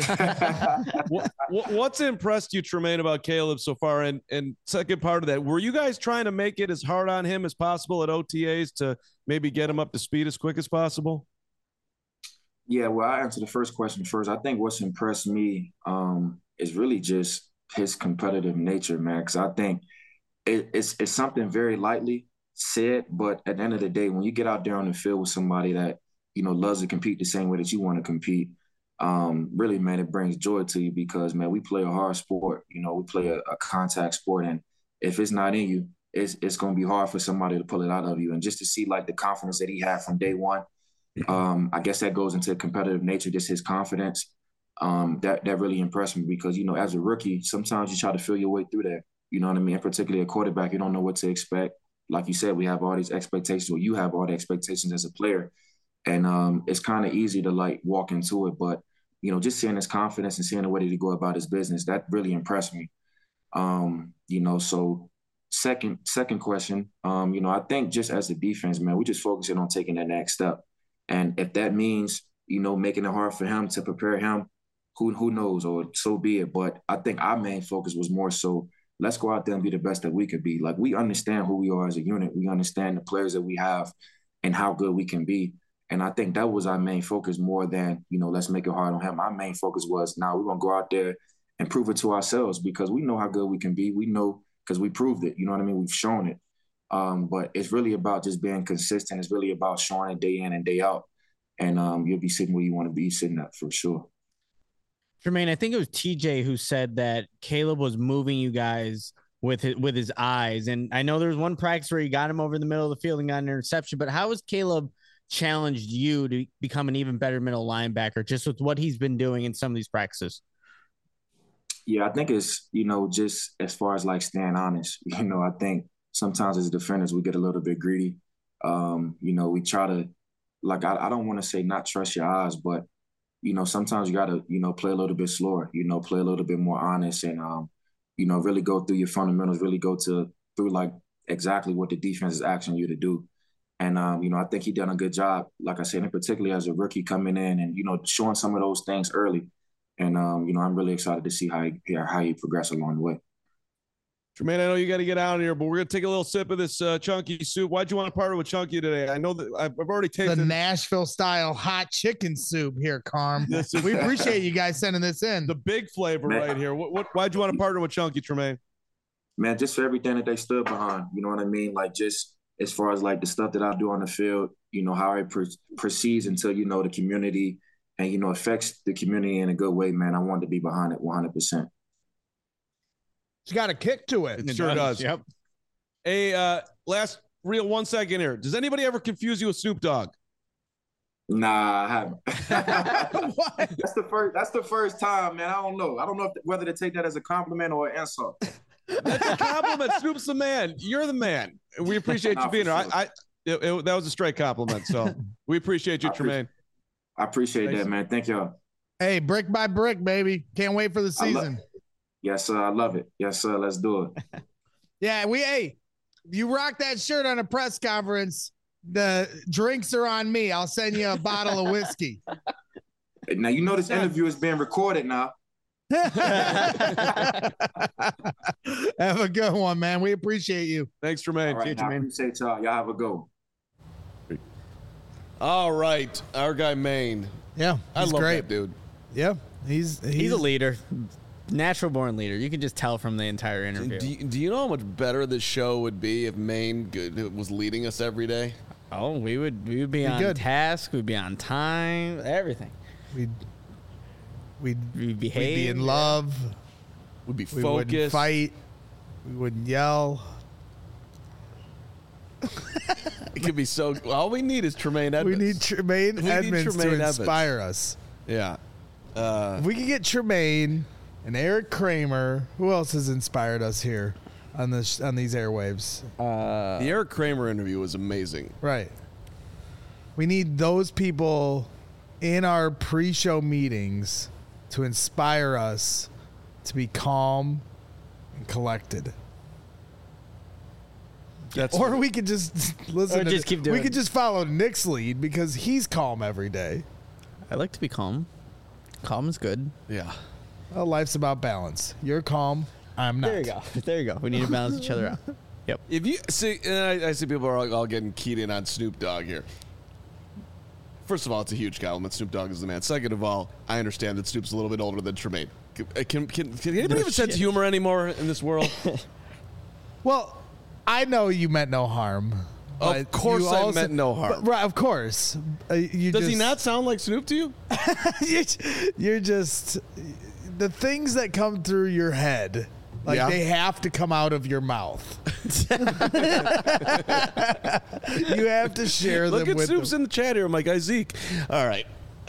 What's impressed you, Tremaine, about Caleb so far? And second part of that, were you guys trying to make it as hard on him as possible at OTAs to maybe get him up to speed as quick as possible? Yeah, well, I answer the first question first. I think what's impressed me is really just his competitive nature, man, because I think it's something very lightly said, but at the end of the day, when you get out there on the field with somebody that, loves to compete the same way that you want to compete, really, man, it brings joy to you, because, man, we play a hard sport. We play a contact sport, and if it's not in you, it's going to be hard for somebody to pull it out of you. And just to see, like, the confidence that he had from day one, I guess that goes into competitive nature, just his confidence. That really impressed me, because, as a rookie, sometimes you try to feel your way through that. You know what I mean? And particularly a quarterback, you don't know what to expect. Like you said, we have all these expectations, or you have all the expectations as a player. And it's kind of easy to, like, walk into it. But, just seeing his confidence and seeing the way that he go about his business, that really impressed me. So second question, I think just as a defense, man, we just focusing on taking that next step. And if that means, making it hard for him to prepare him, who knows, or so be it. But I think our main focus was more so, let's go out there and be the best that we could be. Like, we understand who we are as a unit. We understand the players that we have and how good we can be. And I think that was our main focus, more than, let's make it hard on him. Our main focus was, now we're going to go out there and prove it to ourselves, because we know how good we can be. We know, because we proved it. You know what I mean? We've shown it. But it's really about just being consistent. It's really about showing it day in and day out. And you'll be sitting where you want to be sitting at, for sure. Jermaine, I think it was TJ who said that Caleb was moving you guys with his eyes. And I know there was one practice where he got him over the middle of the field and got an interception, but how has Caleb challenged you to become an even better middle linebacker just with what he's been doing in some of these practices? Yeah, I think it's, just as far as like staying honest, I think sometimes as defenders, we get a little bit greedy. We try to, like, I don't want to say not trust your eyes, but, sometimes you got to, play a little bit slower, play a little bit more honest and, really go through your fundamentals, really go through like exactly what the defense is asking you to do. And, I think he done a good job, like I said, and particularly as a rookie coming in and, showing some of those things early. And, I'm really excited to see how he progress along the way. Jermaine, I know you got to get out of here, but we're going to take a little sip of this chunky soup. Why'd you want to partner with Chunky today? I know that I've already tasted the Nashville-style hot chicken soup here, Carm. We appreciate you guys sending this in. The big flavor right here. Why'd you want to partner with Chunky, Tremaine? Man, just for everything that they stood behind. You know what I mean? Like, just as far as, like, the stuff that I do on the field, how it proceeds until, the community and, affects the community in a good way, man. I wanted to be behind it 100%. It's got a kick to it. It sure does. Yep. Hey, last real 1 second here. Does anybody ever confuse you with Snoop Dogg? Nah, I haven't. What? That's the first time, man. I don't know whether to take that as a compliment or an insult. That's a compliment. Snoop's the man. You're the man. We appreciate you being here. Sure. That was a straight compliment. So we appreciate you, Tremaine. I appreciate that, man. Thank y'all. Hey, brick by brick, baby. Can't wait for the season. Yes, sir. I love it. Yes, sir. Let's do it. Yeah, you rock that shirt on a press conference. The drinks are on me. I'll send you a bottle of whiskey. Now, this interview is being recorded now. Have a good one, man. We appreciate you. Thanks, Tremaine. All right, I appreciate y'all. Y'all have a go. All right. Our guy, Maine. Yeah, I love great. that dude. Yeah, he's a leader. Natural born leader. You can just tell from the entire interview. Do you know how much better this show would be if Maine was leading us every day? Oh, we would be on task. We'd be on time. Everything. We'd behave. We'd be in love. We'd be we focused. Wouldn't fight. We wouldn't yell. It could be so. All we need is Tremaine Edmonds. We need Tremaine Edmonds to inspire us. Yeah. If we could get Tremaine and Eric Kramer. Who else has inspired us here on these airwaves? The Eric Kramer interview was amazing. Right. We need those people in our pre-show meetings to inspire us to be calm and collected. Or we could just listen. Keep doing. We could just follow Nick's lead because he's calm every day. I like to be calm. Calm is good. Yeah. Well, life's about balance. You're calm. I'm not. There you go. We need to balance each other out. Yep. If you see, and I see people are all getting keyed in on Snoop Dogg here. First of all, it's a huge compliment. Snoop Dogg is the man. Second of all, I understand that Snoop's a little bit older than Tremaine. Can anybody have a sense of humor anymore in this world? Well, I know you meant no harm. Of course I meant no harm. Right, of course. Does he not sound like Snoop to you? You're just... The things that come through your head, they have to come out of your mouth. You have to share them with them. Look at Snoop's in the chat here, my guy Zeke. All right.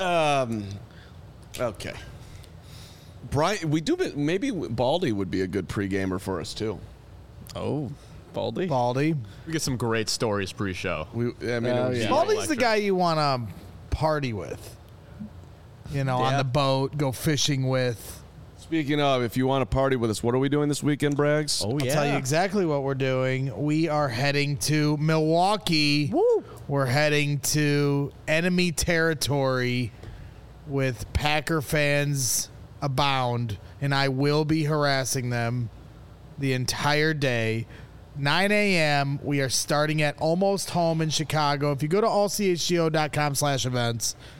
Okay. Brian, maybe Baldy would be a good pre-gamer for us, too. Oh, Baldy? We get some great stories pre-show. Baldy's the guy you want to party with. On the boat, go fishing with. Speaking of, if you want to party with us, what are we doing this weekend, Braggs? I'll tell you exactly what we're doing. We are heading to Milwaukee. Woo! We're heading to enemy territory with Packer fans abound, and I will be harassing them the entire day. 9 a.m. We are starting at Almost Home in Chicago. If you go to allchgo.com/events,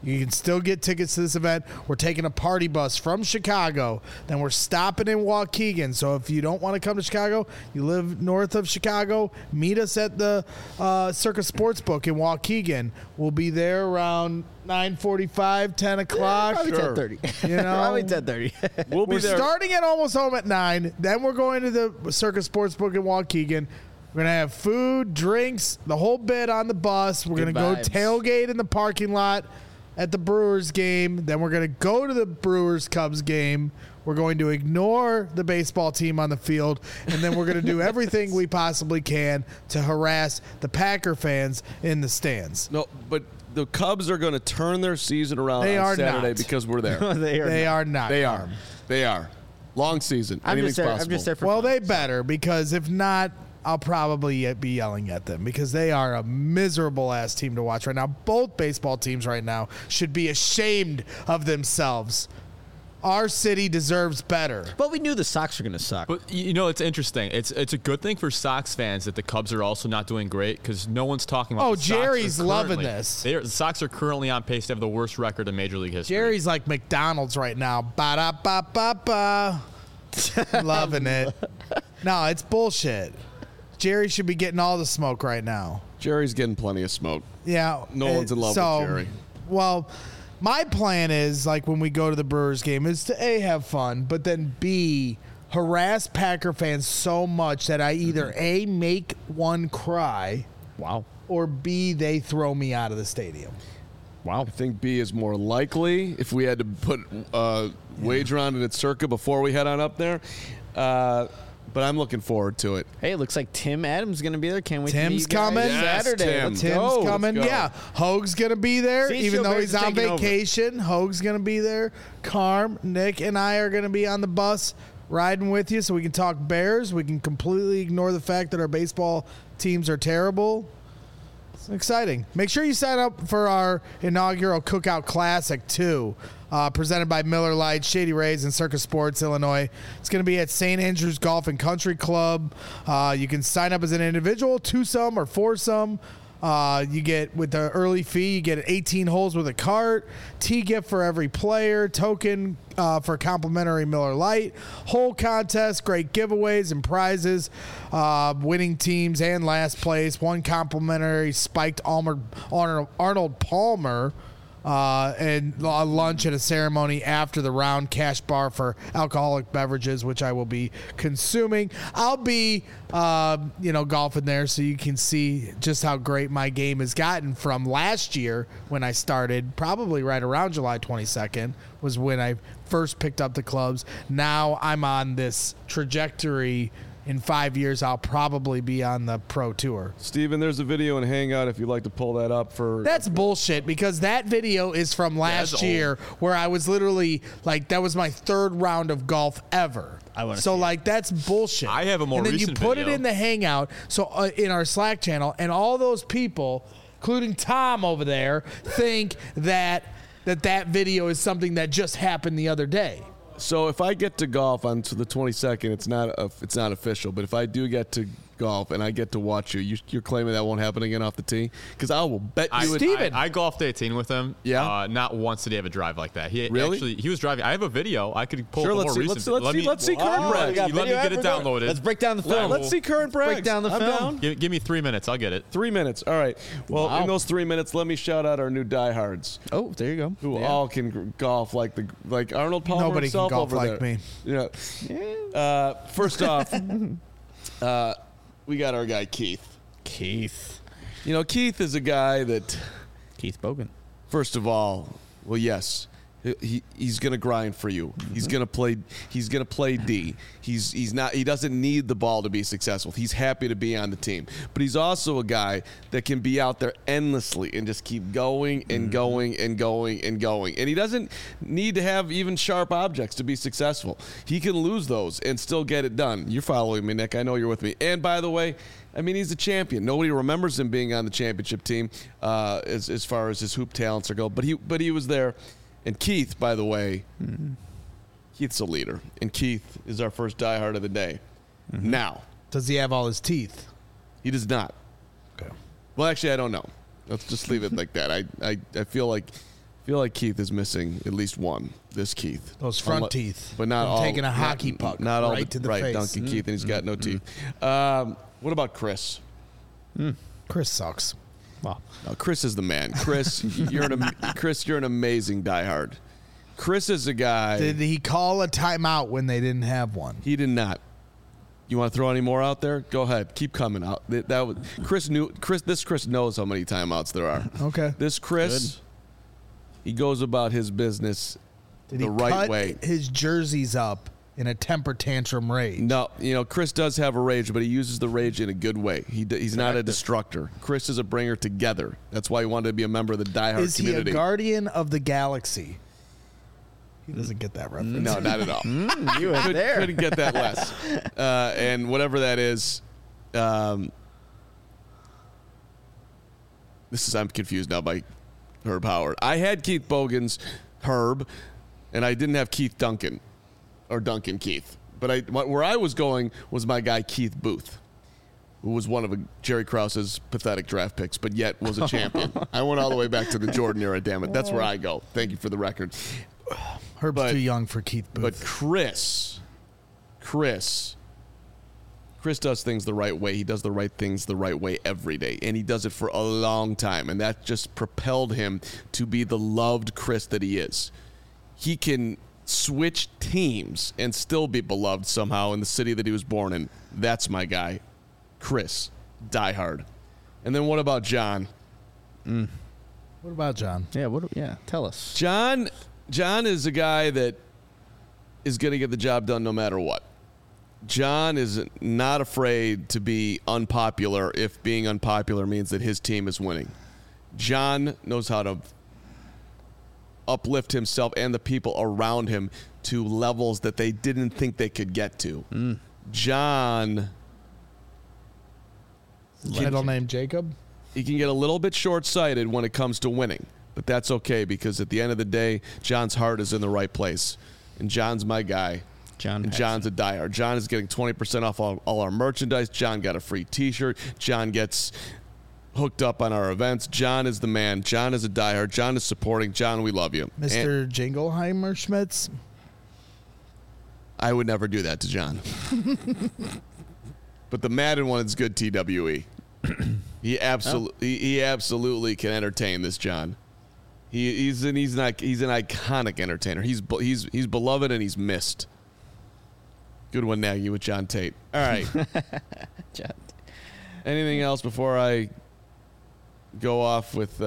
You can still get tickets to this event. We're taking a party bus from Chicago. Then we're stopping in Waukegan. So if you don't want to come to Chicago, you live north of Chicago, meet us at the Circus Sportsbook in Waukegan. We'll be there around 9:45, 10 o'clock. Probably Sure. 10:30. You know? Probably 10:30. We'll be We're there. starting at Almost Home at 9. Then we're going to the Circus Sportsbook in Waukegan. We're going to have food, drinks, the whole bit on the bus. We're going Good to go vibes. tailgate in the parking lot at the Brewers game. Then we're going to go to the Brewers-Cubs game. We're going to ignore the baseball team on the field. And then we're going to do everything we possibly can to harass the Packer fans in the stands. No, but the Cubs are going to turn their season around They on are Saturday not. because we're there. They are not. They are. They are. Long season. I'm Anything's just there. possible. I'm just there for Well, fun. they better, because if not, I'll probably be yelling at them, because they are a miserable ass team to watch right now. Both baseball teams right now should be ashamed of themselves. Our city deserves better. But we knew the Sox were going to suck. But it's interesting. It's a good thing for Sox fans that the Cubs are also not doing great, because no one's talking about. Oh, the Sox Jerry's are loving currently- this. The Sox are currently on pace to have the worst record in Major League history. Jerry's like McDonald's right now. Ba-da-ba-ba-ba. Loving it. No, it's bullshit. Jerry should be getting all the smoke right now. Jerry's getting plenty of smoke. Yeah. No one's in love with Jerry. Well, my plan is, like, when we go to the Brewers game, is to A, have fun, but then B, harass Packer fans so much that I either A, make one cry, Wow. or B, they throw me out of the stadium. Wow. I think B is more likely if we had to put wager on it at Circa before we head on up there. But I'm looking forward to it. Hey, it looks like Tim Adams is going to be there. Can't wait to meet Tim's you guys coming. Yes, Saturday. Tim. Let's Tim's go. coming. Let's go. Yeah. Hoag's going to be there, See, even Joe though Bears he's is on taking over. vacation. Hoag's going to be there. Carm, Nick, and I are going to be on the bus riding with you so we can talk Bears. We can completely ignore the fact that our baseball teams are terrible. It's exciting. Make sure you sign up for our inaugural Cookout Classic, too, presented by Miller Lite, Shady Rays, and Circus Sports, Illinois. It's going to be at St. Andrews Golf and Country Club. You can sign up as an individual, twosome or foursome. You get, with the early fee, you get 18 holes with a cart, tee gift for every player, token for complimentary Miller Lite, hole contest, great giveaways and prizes, winning teams and last place, one complimentary spiked Arnold Palmer, and a lunch and a ceremony after the round, cash bar for alcoholic beverages, which I will be consuming. I'll be, golfing there so you can see just how great my game has gotten from last year when I started, probably right around July 22nd was when I first picked up the clubs. Now I'm on this trajectory. In 5 years, I'll probably be on the pro tour. Steven, there's a video in Hangout if you'd like to pull that up for. That's bullshit, because that video is from last that's year where I was literally like, that was my third round of golf ever. I wanna So see it. like, that's bullshit. I have a more and then recent you put video. it in the Hangout, so in our Slack channel, and all those people, including Tom over there, think that video is something that just happened the other day. So if I get to golf on to the 22nd, it's not official. But if I do get to golf and I get to watch you're claiming that won't happen again off the tee? Because I will bet you it. Steven. I golfed 18 with him. Yeah? Not once did he have a drive like that. He Really? Actually, he was driving. I have a video. I could pull Sure, up a let's more see- recent. let's see current Oh, Brad. we got Let me video get it evidence. downloaded. Let's break down the film. Let's see current Braggs. Break down the I'm film. down. Give me 3 minutes. I'll get it. 3 minutes. All right. Well, Wow. in those 3 minutes, let me shout out our new diehards Oh, there you go. who all can golf like Arnold Palmer Nobody can himself golf over like there. me. Yeah. First off, we got our guy Keith. Keith. Keith is a guy that, Keith Bogan. first of all, well, yes, he's gonna grind for you. He's gonna play. He's gonna play D. He's not. He doesn't need the ball to be successful. He's happy to be on the team. But he's also a guy that can be out there endlessly and just keep going and going and going and going. And he doesn't need to have even sharp objects to be successful. He can lose those and still get it done. You're following me, Nick. I know you're with me. And by the way, he's a champion. Nobody remembers him being on the championship team as far as his hoop talents go. But he was there. And Keith, by the way, Keith's a leader. And Keith is our first diehard of the day. Now, Does he have all his teeth? he does not. Okay. Well, actually, I don't know. Let's just leave it like that. I feel like feel like Keith is missing at least one. This Keith. Those front teeth. But not From all. taking a hockey puck Not all right to the face. Duncan Keith, and he's got no teeth. What about Chris? Chris sucks. Well, No, Chris is the man. Chris, you're an amazing diehard. Chris is a guy. Did he call a timeout when they didn't have one? He did not. You want to throw any more out there? Go ahead. Keep coming out. Chris knows how many timeouts there are. Okay. This Chris, he goes about his business Did the he right cut way. his jerseys up in a temper tantrum rage? No, Chris does have a rage, but he uses the rage in a good way. He's not a destructor. Chris is a bringer together. That's why he wanted to be a member of the diehard Is he community. a guardian of the galaxy? He doesn't get that reference. No, not at all. you were there. Couldn't get that less. And whatever that is, I'm confused now by Herb Howard. I had Keith Bogan's Herb, and I didn't have Keith Duncan or Duncan Keith. But where I was going was my guy Keith Booth, who was one of Jerry Krause's pathetic draft picks, but yet was a champion. I went all the way back to the Jordan era, damn it. That's where I go. Thank you for the record. Herb's too young for Keith Booth. But Chris does things the right way. He does the right things the right way every day, and he does it for a long time, and that just propelled him to be the loved Chris that he is. He can switch teams and still be beloved somehow in the city that he was born in. That's my guy, Chris, diehard. And then what about John? What about John? Yeah, tell us. John is a guy that is going to get the job done no matter what. John is not afraid to be unpopular if being unpopular means that his team is winning. John knows how to uplift himself and the people around him to levels that they didn't think they could get to. John... Middle name Jacob? He can get a little bit short-sighted when it comes to winning, but that's okay because at the end of the day, John's heart is in the right place, and John's my guy. John's a diehard. John is getting 20% off all our merchandise. John got a free T-shirt. John gets hooked up on our events. John is the man. John is a diehard. John is supporting. John, we love you. Mr. Jingleheimer Schmitz? I would never do that to John. But the Madden one is good, TWE. He absolutely can entertain this John. He's an iconic entertainer. He's beloved and he's missed. Good one, Nagy, with John Tate. All right. Anything else before I go off with?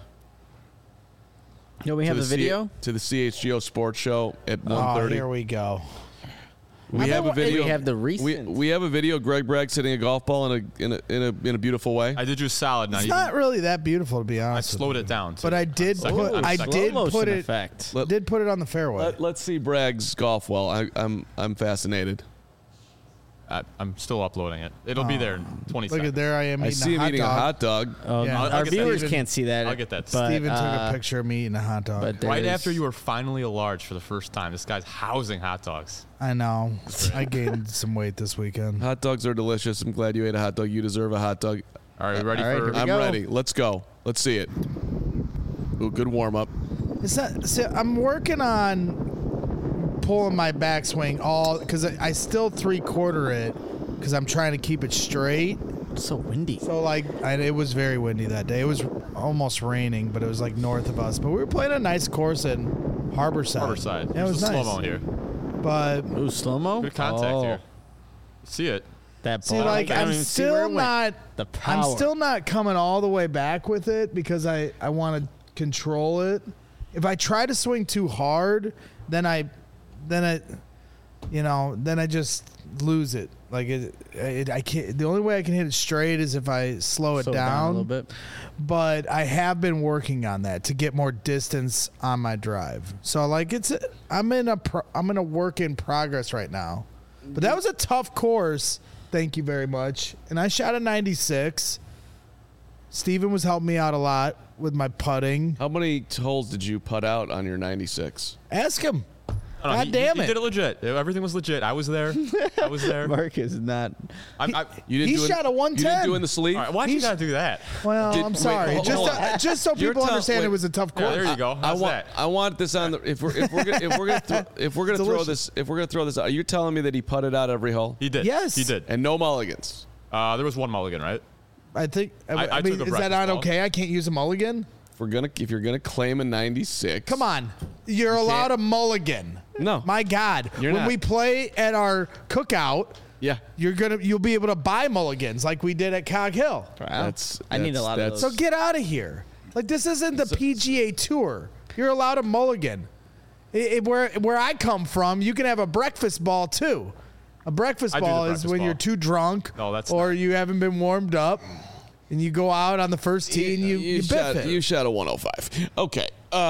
We have the video to the CHGO Sports Show at 1:30. Oh, here we go. We have a video. We have the recent. We have a video. Greg Bragg hitting a golf ball in a beautiful way. I did you a solid. It's not really that beautiful, to be I honest. slowed it down. But I did put it. Did put it on the fairway. Let's see Bragg's golf well. I'm fascinated. I'm still uploading it. It'll be there in 20 Look seconds. at there I am. I see him eating a hot dog. Oh, Yeah. our I'll get that. viewers Steven- can't see that. I'll get that. But, Steven took a picture of me eating a hot dog. But Right there's- after you were finally a large for the first time, this guy's housing hot dogs. I know. I gained some weight this weekend. Hot dogs are delicious. I'm glad you ate a hot dog. You deserve a hot dog. All right, ready All right, for? here we I'm go. ready. Let's go. Let's see it. Ooh, good warm up. It's not. See, I'm working on pulling my backswing because I still 3/4 it because I'm trying to keep it straight. It's so windy. So it was very windy that day. It was almost raining, but it was like north of us. But we were playing a nice course in Harborside. Harborside. Yeah, it was There's a nice. slow-mo here. But Ooh, slow mo. Good contact here. See it? That see, ball. I don't I'm even see where it still went. not. The power. I'm still not coming all the way back with it because I want to control it. If I try to swing too hard, then I just lose it. Like I can't. The only way I can hit it straight is if I slow it down a little bit. But I have been working on that to get more distance on my drive. So I'm in a work in progress right now. But that was a tough course. Thank you very much. And I shot a 96. Steven was helping me out a lot with my putting. How many holes did you putt out on your 96? Ask him. God damn He it. did it legit. Everything was legit. I was there. Mark is not. You didn't He do it, shot a You didn't 110. do it in the sleeve. All right, why'd you He's- gotta do that? Well, I'm wait, sorry. hold on. Just so You're people understand wait. it was a tough Yeah, course. there you go. I How's want that? I want this on the if we're gonna throw this out. Are you telling me that he putted out every hole He did. Yes. He did. and no mulligans? There was one mulligan, right? I think. I mean, took a is that breakfast not ball. okay? I can't use a mulligan. If you're gonna claim a 96, Come on, you're allowed a mulligan. No. My God, You're when not. we play at our cookout, Yeah, you'll be able to buy mulligans like we did at Cog Hill. I need a lot of So those. get out of here. Like this isn't the PGA Tour. You're allowed a mulligan. Where I come from, you can have a breakfast ball too. A breakfast I do the ball is breakfast when ball. you're too drunk No, that's or not. you haven't been warmed up and you go out on the first tee and you biff it. You shot a 105. Okay.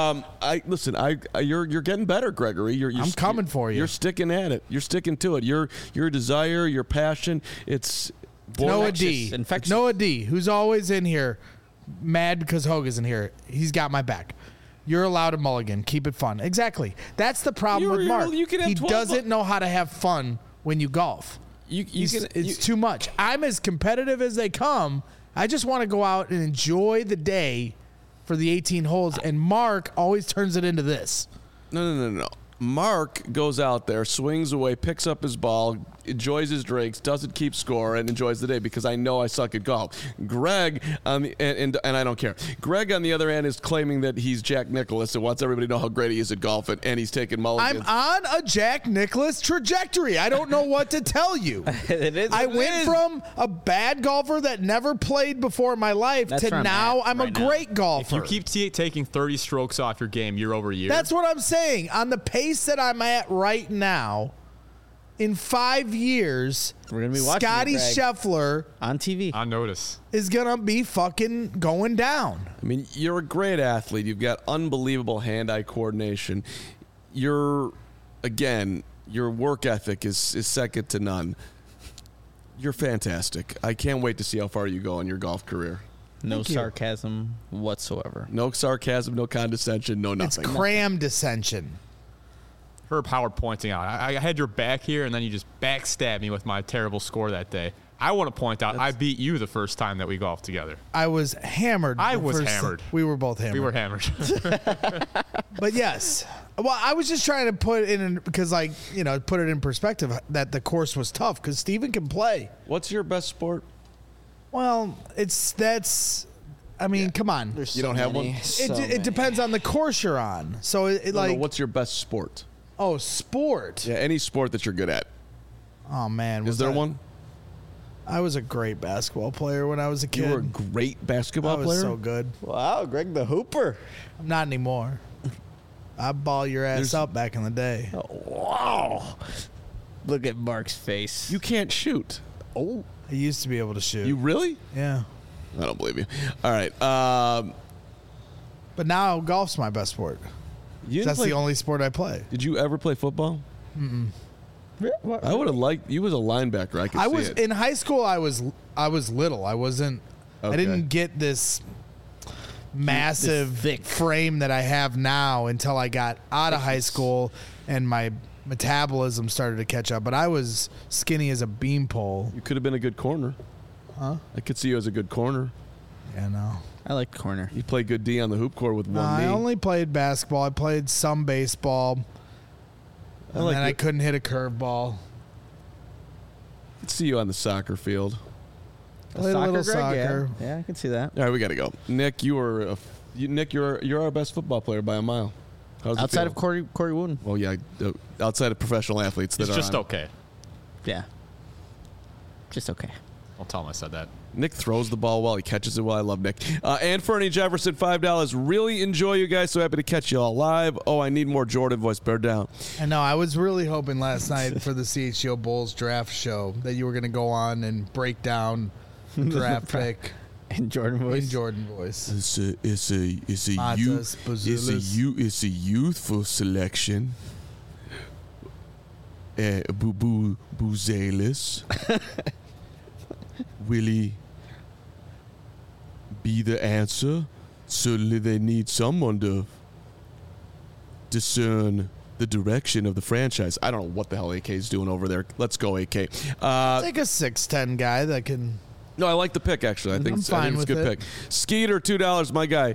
You're getting better, Gregory. I'm coming for you. You're sticking at it. You're sticking to it. Your desire, your passion. It's Noah D. Infectious. Noah D, who's always in here, mad because Hogue isn't here. He's got my back. You're allowed a mulligan. Keep it fun. Exactly. That's the problem with Mark. You can have He 12 doesn't know how to have fun when you golf. It's too much. I'm as competitive as they come. I just want to go out and enjoy the day for the 18 holes, and Mark always turns it into this. No. Mark goes out there, swings away, picks up his ball, enjoys his drinks, doesn't keep score, and enjoys the day because I know I suck at golf. Greg, and I don't care. Greg, on the other hand, is claiming that he's Jack Nicklaus and wants everybody to know how great he is at golf, and he's taking mulligans. I'm on a Jack Nicklaus trajectory. I don't know what to tell you. It is I what it went is. from a bad golfer that never played before in my life That's to where I'm now at I'm a right now. great golfer. If you keep taking 30 strokes off your game year over year, That's what I'm saying. On the pace that I'm at right now, in 5 years, We're gonna be watching Scotty it, Greg. Scheffler on TV. on notice. is gonna be fucking going down. I mean, you're a great athlete. You've got unbelievable hand-eye coordination. Your work ethic is second to none. You're fantastic. I can't wait to see how far you go in your golf career. No Thank you. sarcasm whatsoever. No sarcasm, no condescension, no It's nothing. cram dissension. Herb Howard pointing out, I had your back here, and then you just backstabbed me with my terrible score that day. I want to point out, I beat you the first time that we golfed together. I was hammered. I the was first- hammered. We were both hammered. We were hammered. But yes. Well, I was just trying to put it in because, put it in perspective that the course was tough because Steven can play. What's your best sport? Well, come on. There's You don't have one? It depends on the course you're on. So No, what's your best sport? sport. Yeah, any sport that you're good at. Oh man, Is there one? I was a great basketball player when I was a kid. You were a great basketball I was player. so good. Wow, Greg the Hooper. Not anymore. I ball your ass There's- up back in the day. Wow. Look at Mark's face. You can't shoot. Oh, I used to be able to shoot. You really? Yeah. I don't believe you. All right. But now golf's my best sport. You didn't That's play- the only sport I play. Did you ever play football? I would have liked you as a linebacker. I could I see was it. in high school. I was little. I wasn't. I Okay. didn't get this massive thick. frame that I have now until I got out of high school and my metabolism started to catch up. But I was skinny as a beanpole. You could have been a good corner. Huh? I could see you as a good corner. Yeah, no. I like corner. You play good D on the hoop court with one I knee. only played basketball. I played some baseball. And like then I it. couldn't hit a curveball. I could see you on the soccer field. Played a little soccer. Yeah, I can see that. All right, we got to go. Nick, you're our best football player by a mile. How's it Outside feel? of Corey Wooden. Well, yeah, outside of professional athletes that It's are just on. okay. Yeah. Just okay. Don't tell him I said that. Nick throws the ball well. He catches it well. I love Nick. And Fernie Jefferson, $5. Really enjoy you guys. So happy to catch you all live. Oh, I need more Jordan voice. Bear down. I know. I was really hoping last night for the CHGO Bulls draft show that you were going to go on and break down draft pick In Jordan voice. in Jordan voice. It's a Matas, Bazulis. it's a youthful selection. Buzelis. Will he be the answer? Certainly they need someone to discern the direction of the franchise. I don't know what the hell AK's doing over there. Let's go, AK. Take a 6'10" guy that can. No, I like the pick, actually. I think it's a good pick. Skeeter, $2, my guy.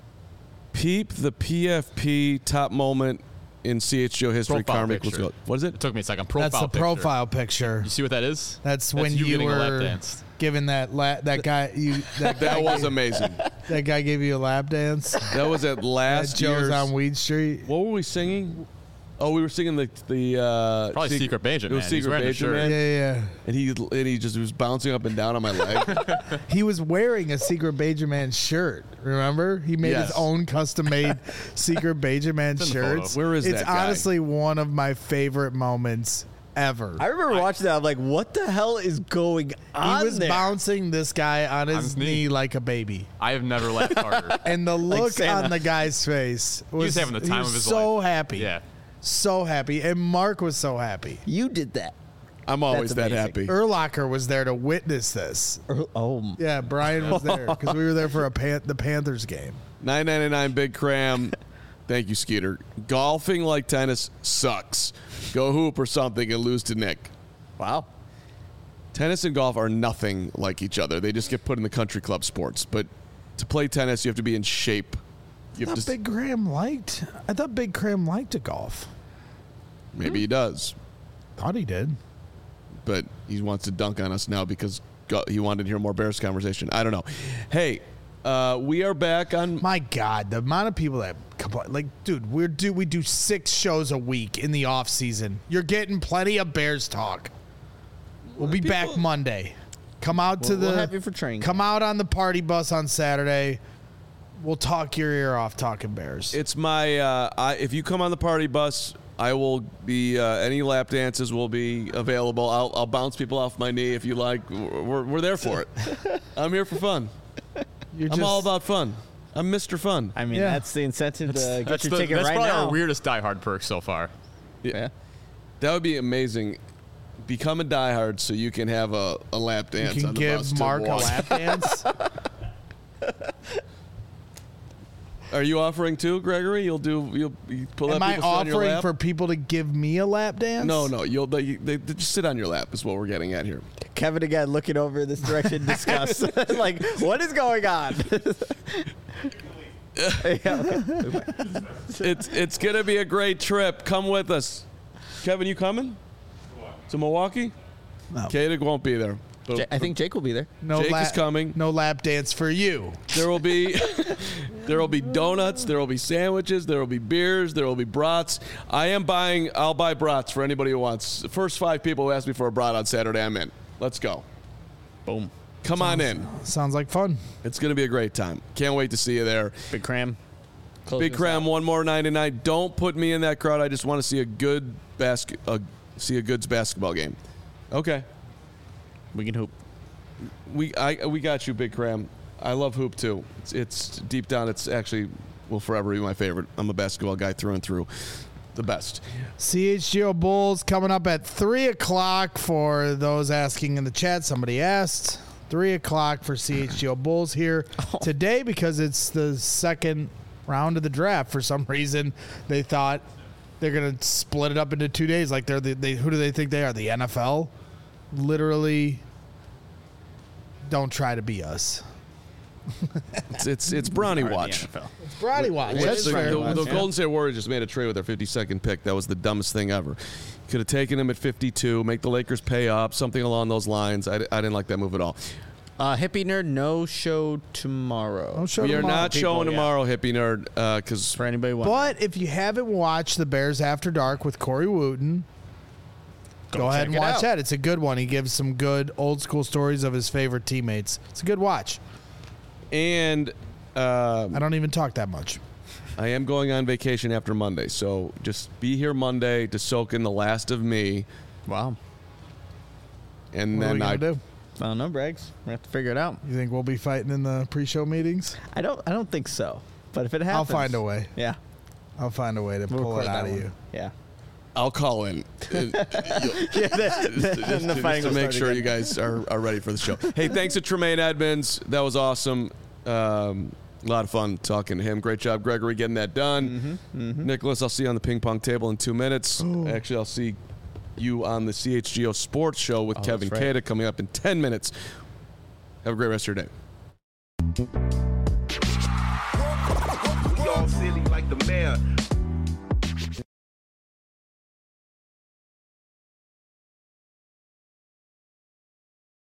Peep the PFP top moment in CHGO history. Karmic. What is it? It took me a second. That's the profile picture. You see what that is? That's when you were giving that guy. That was amazing. That guy gave you a lap dance. That was at last year's. Joe's on Weed Street. What were we singing? Oh, we were singing the probably Secret Benjamin. It was Secret Benjamin. Yeah. And he just was bouncing up and down on my leg. He was wearing a Secret Benjamin shirt. Remember? He made his own custom-made Secret Benjamin shirts. Where is that It's guy? honestly one of my favorite moments ever. I remember watching that. I'm like, what the hell is going on? He was there? bouncing this guy on his knee like a baby. I have never laughed harder. And the look Santa. on the guy's face was, He was having the time of his life. so happy. Yeah. So happy. And Mark was so happy. You did that. I'm always That's that amazing. happy. Urlacher was there to witness this. Oh, Yeah, Brian was there because we were there for the Panthers game. $9.99 Big Cram. Thank you, Skeeter. Golfing like tennis sucks. Go hoop or something and lose to Nick. wow. Tennis and golf are nothing like each other. They just get put in the country club sports. But to play tennis, you have to be in shape. I thought Big Cram liked to golf. Maybe he does. Thought he did. But he wants to dunk on us now because he wanted to hear more Bears conversation. I don't know. Hey, we are back on. My God, the amount of people that complain. Like, dude, we do 6 shows a week in the off season. You're getting plenty of Bears talk. We'll be back Monday. Come out to We'll have you for training. Come out on the party bus on Saturday. We'll talk your ear off talking Bears. It's my. If you come on the party bus, I will be. Any lap dances will be available. I'll bounce people off my knee if you like. We're there for it. I'm here for fun. I'm all about fun. I'm Mr. Fun. I mean, that's the incentive to get your ticket That's right probably now. our weirdest diehard perk so far. Yeah. That would be amazing. Become a diehard so you can have a lap dance. You can on the bus give to Mark a walk. lap dance. Are you offering too, Gregory? You'll pull Am up I people sit on your offering lap? for people to give me a lap dance? No. They just sit on your lap is what we're getting at here. Kevin again looking over this direction, discuss. Like, what is going on? It's gonna be a great trip. Come with us. Kevin, you coming? To Milwaukee? No. Kadig won't be there. But I think Jake will be there. No Jake lap, is coming. No lap dance for you. There will be donuts, there will be sandwiches, there will be beers, there will be brats. I'll buy brats for anybody who wants. The first 5 people who ask me for a brat on Saturday, I'm in. Let's go. Boom. Come on in. Sounds like fun. It's going to be a great time. Can't wait to see you there. Big Cram. Big Cram, one more 99. Don't put me in that crowd. I just want to see a good goods basketball game. Okay. We can hoop. We got you, Big Cram. I love hoop too. It's deep down. It's actually will forever be my favorite. I'm a basketball guy through and through. The best. CHGO Bulls coming up at 3:00 for those asking in the chat. Somebody asked 3:00 for CHGO Bulls here today because it's the second round of the draft. For some reason, they thought they're gonna split it up into 2 days. Like who do they think they are? The NFL? Literally, don't try to be us. It's Brownie Watch. It's Brownie Watch. That's The fair. Golden State Warriors just made a trade with their 52nd pick. That was the dumbest thing ever. Could have taken him at 52, make the Lakers pay up, something along those lines. I didn't like that move at all. Hippie Nerd, no show tomorrow. No show We are tomorrow, not people. showing tomorrow, Hippie Nerd, because For anybody wondering. But if you haven't watched The Bears After Dark with Corey Wooten, go ahead and check it watch out. that. It's a good one. He gives some good old school stories of his favorite teammates. It's a good watch. and I don't even talk that much. I am going on vacation after Monday, so just be here Monday to soak in the last of me, Wow. and What are we then gonna do? I don't know, Braggs. We have to figure it out. You think we'll be fighting in the pre-show meetings? I don't think so. But if it happens, I'll find a way. Yeah. I'll find a way to We'll pull it record out that of one. you. Yeah. I'll call in. Then the fighting Just to will make start sure again. you guys are ready for the show. Hey, thanks to Tremaine Edmonds. That was awesome. A lot of fun talking to him. Great job, Gregory, getting that done. Nicholas, I'll see you on the ping pong table in 2 minutes. Actually, I'll see you on the CHGO Sports Show with Kevin that's right. Cada coming up in 10 minutes. Have a great rest of your day. We all silly like the mayor.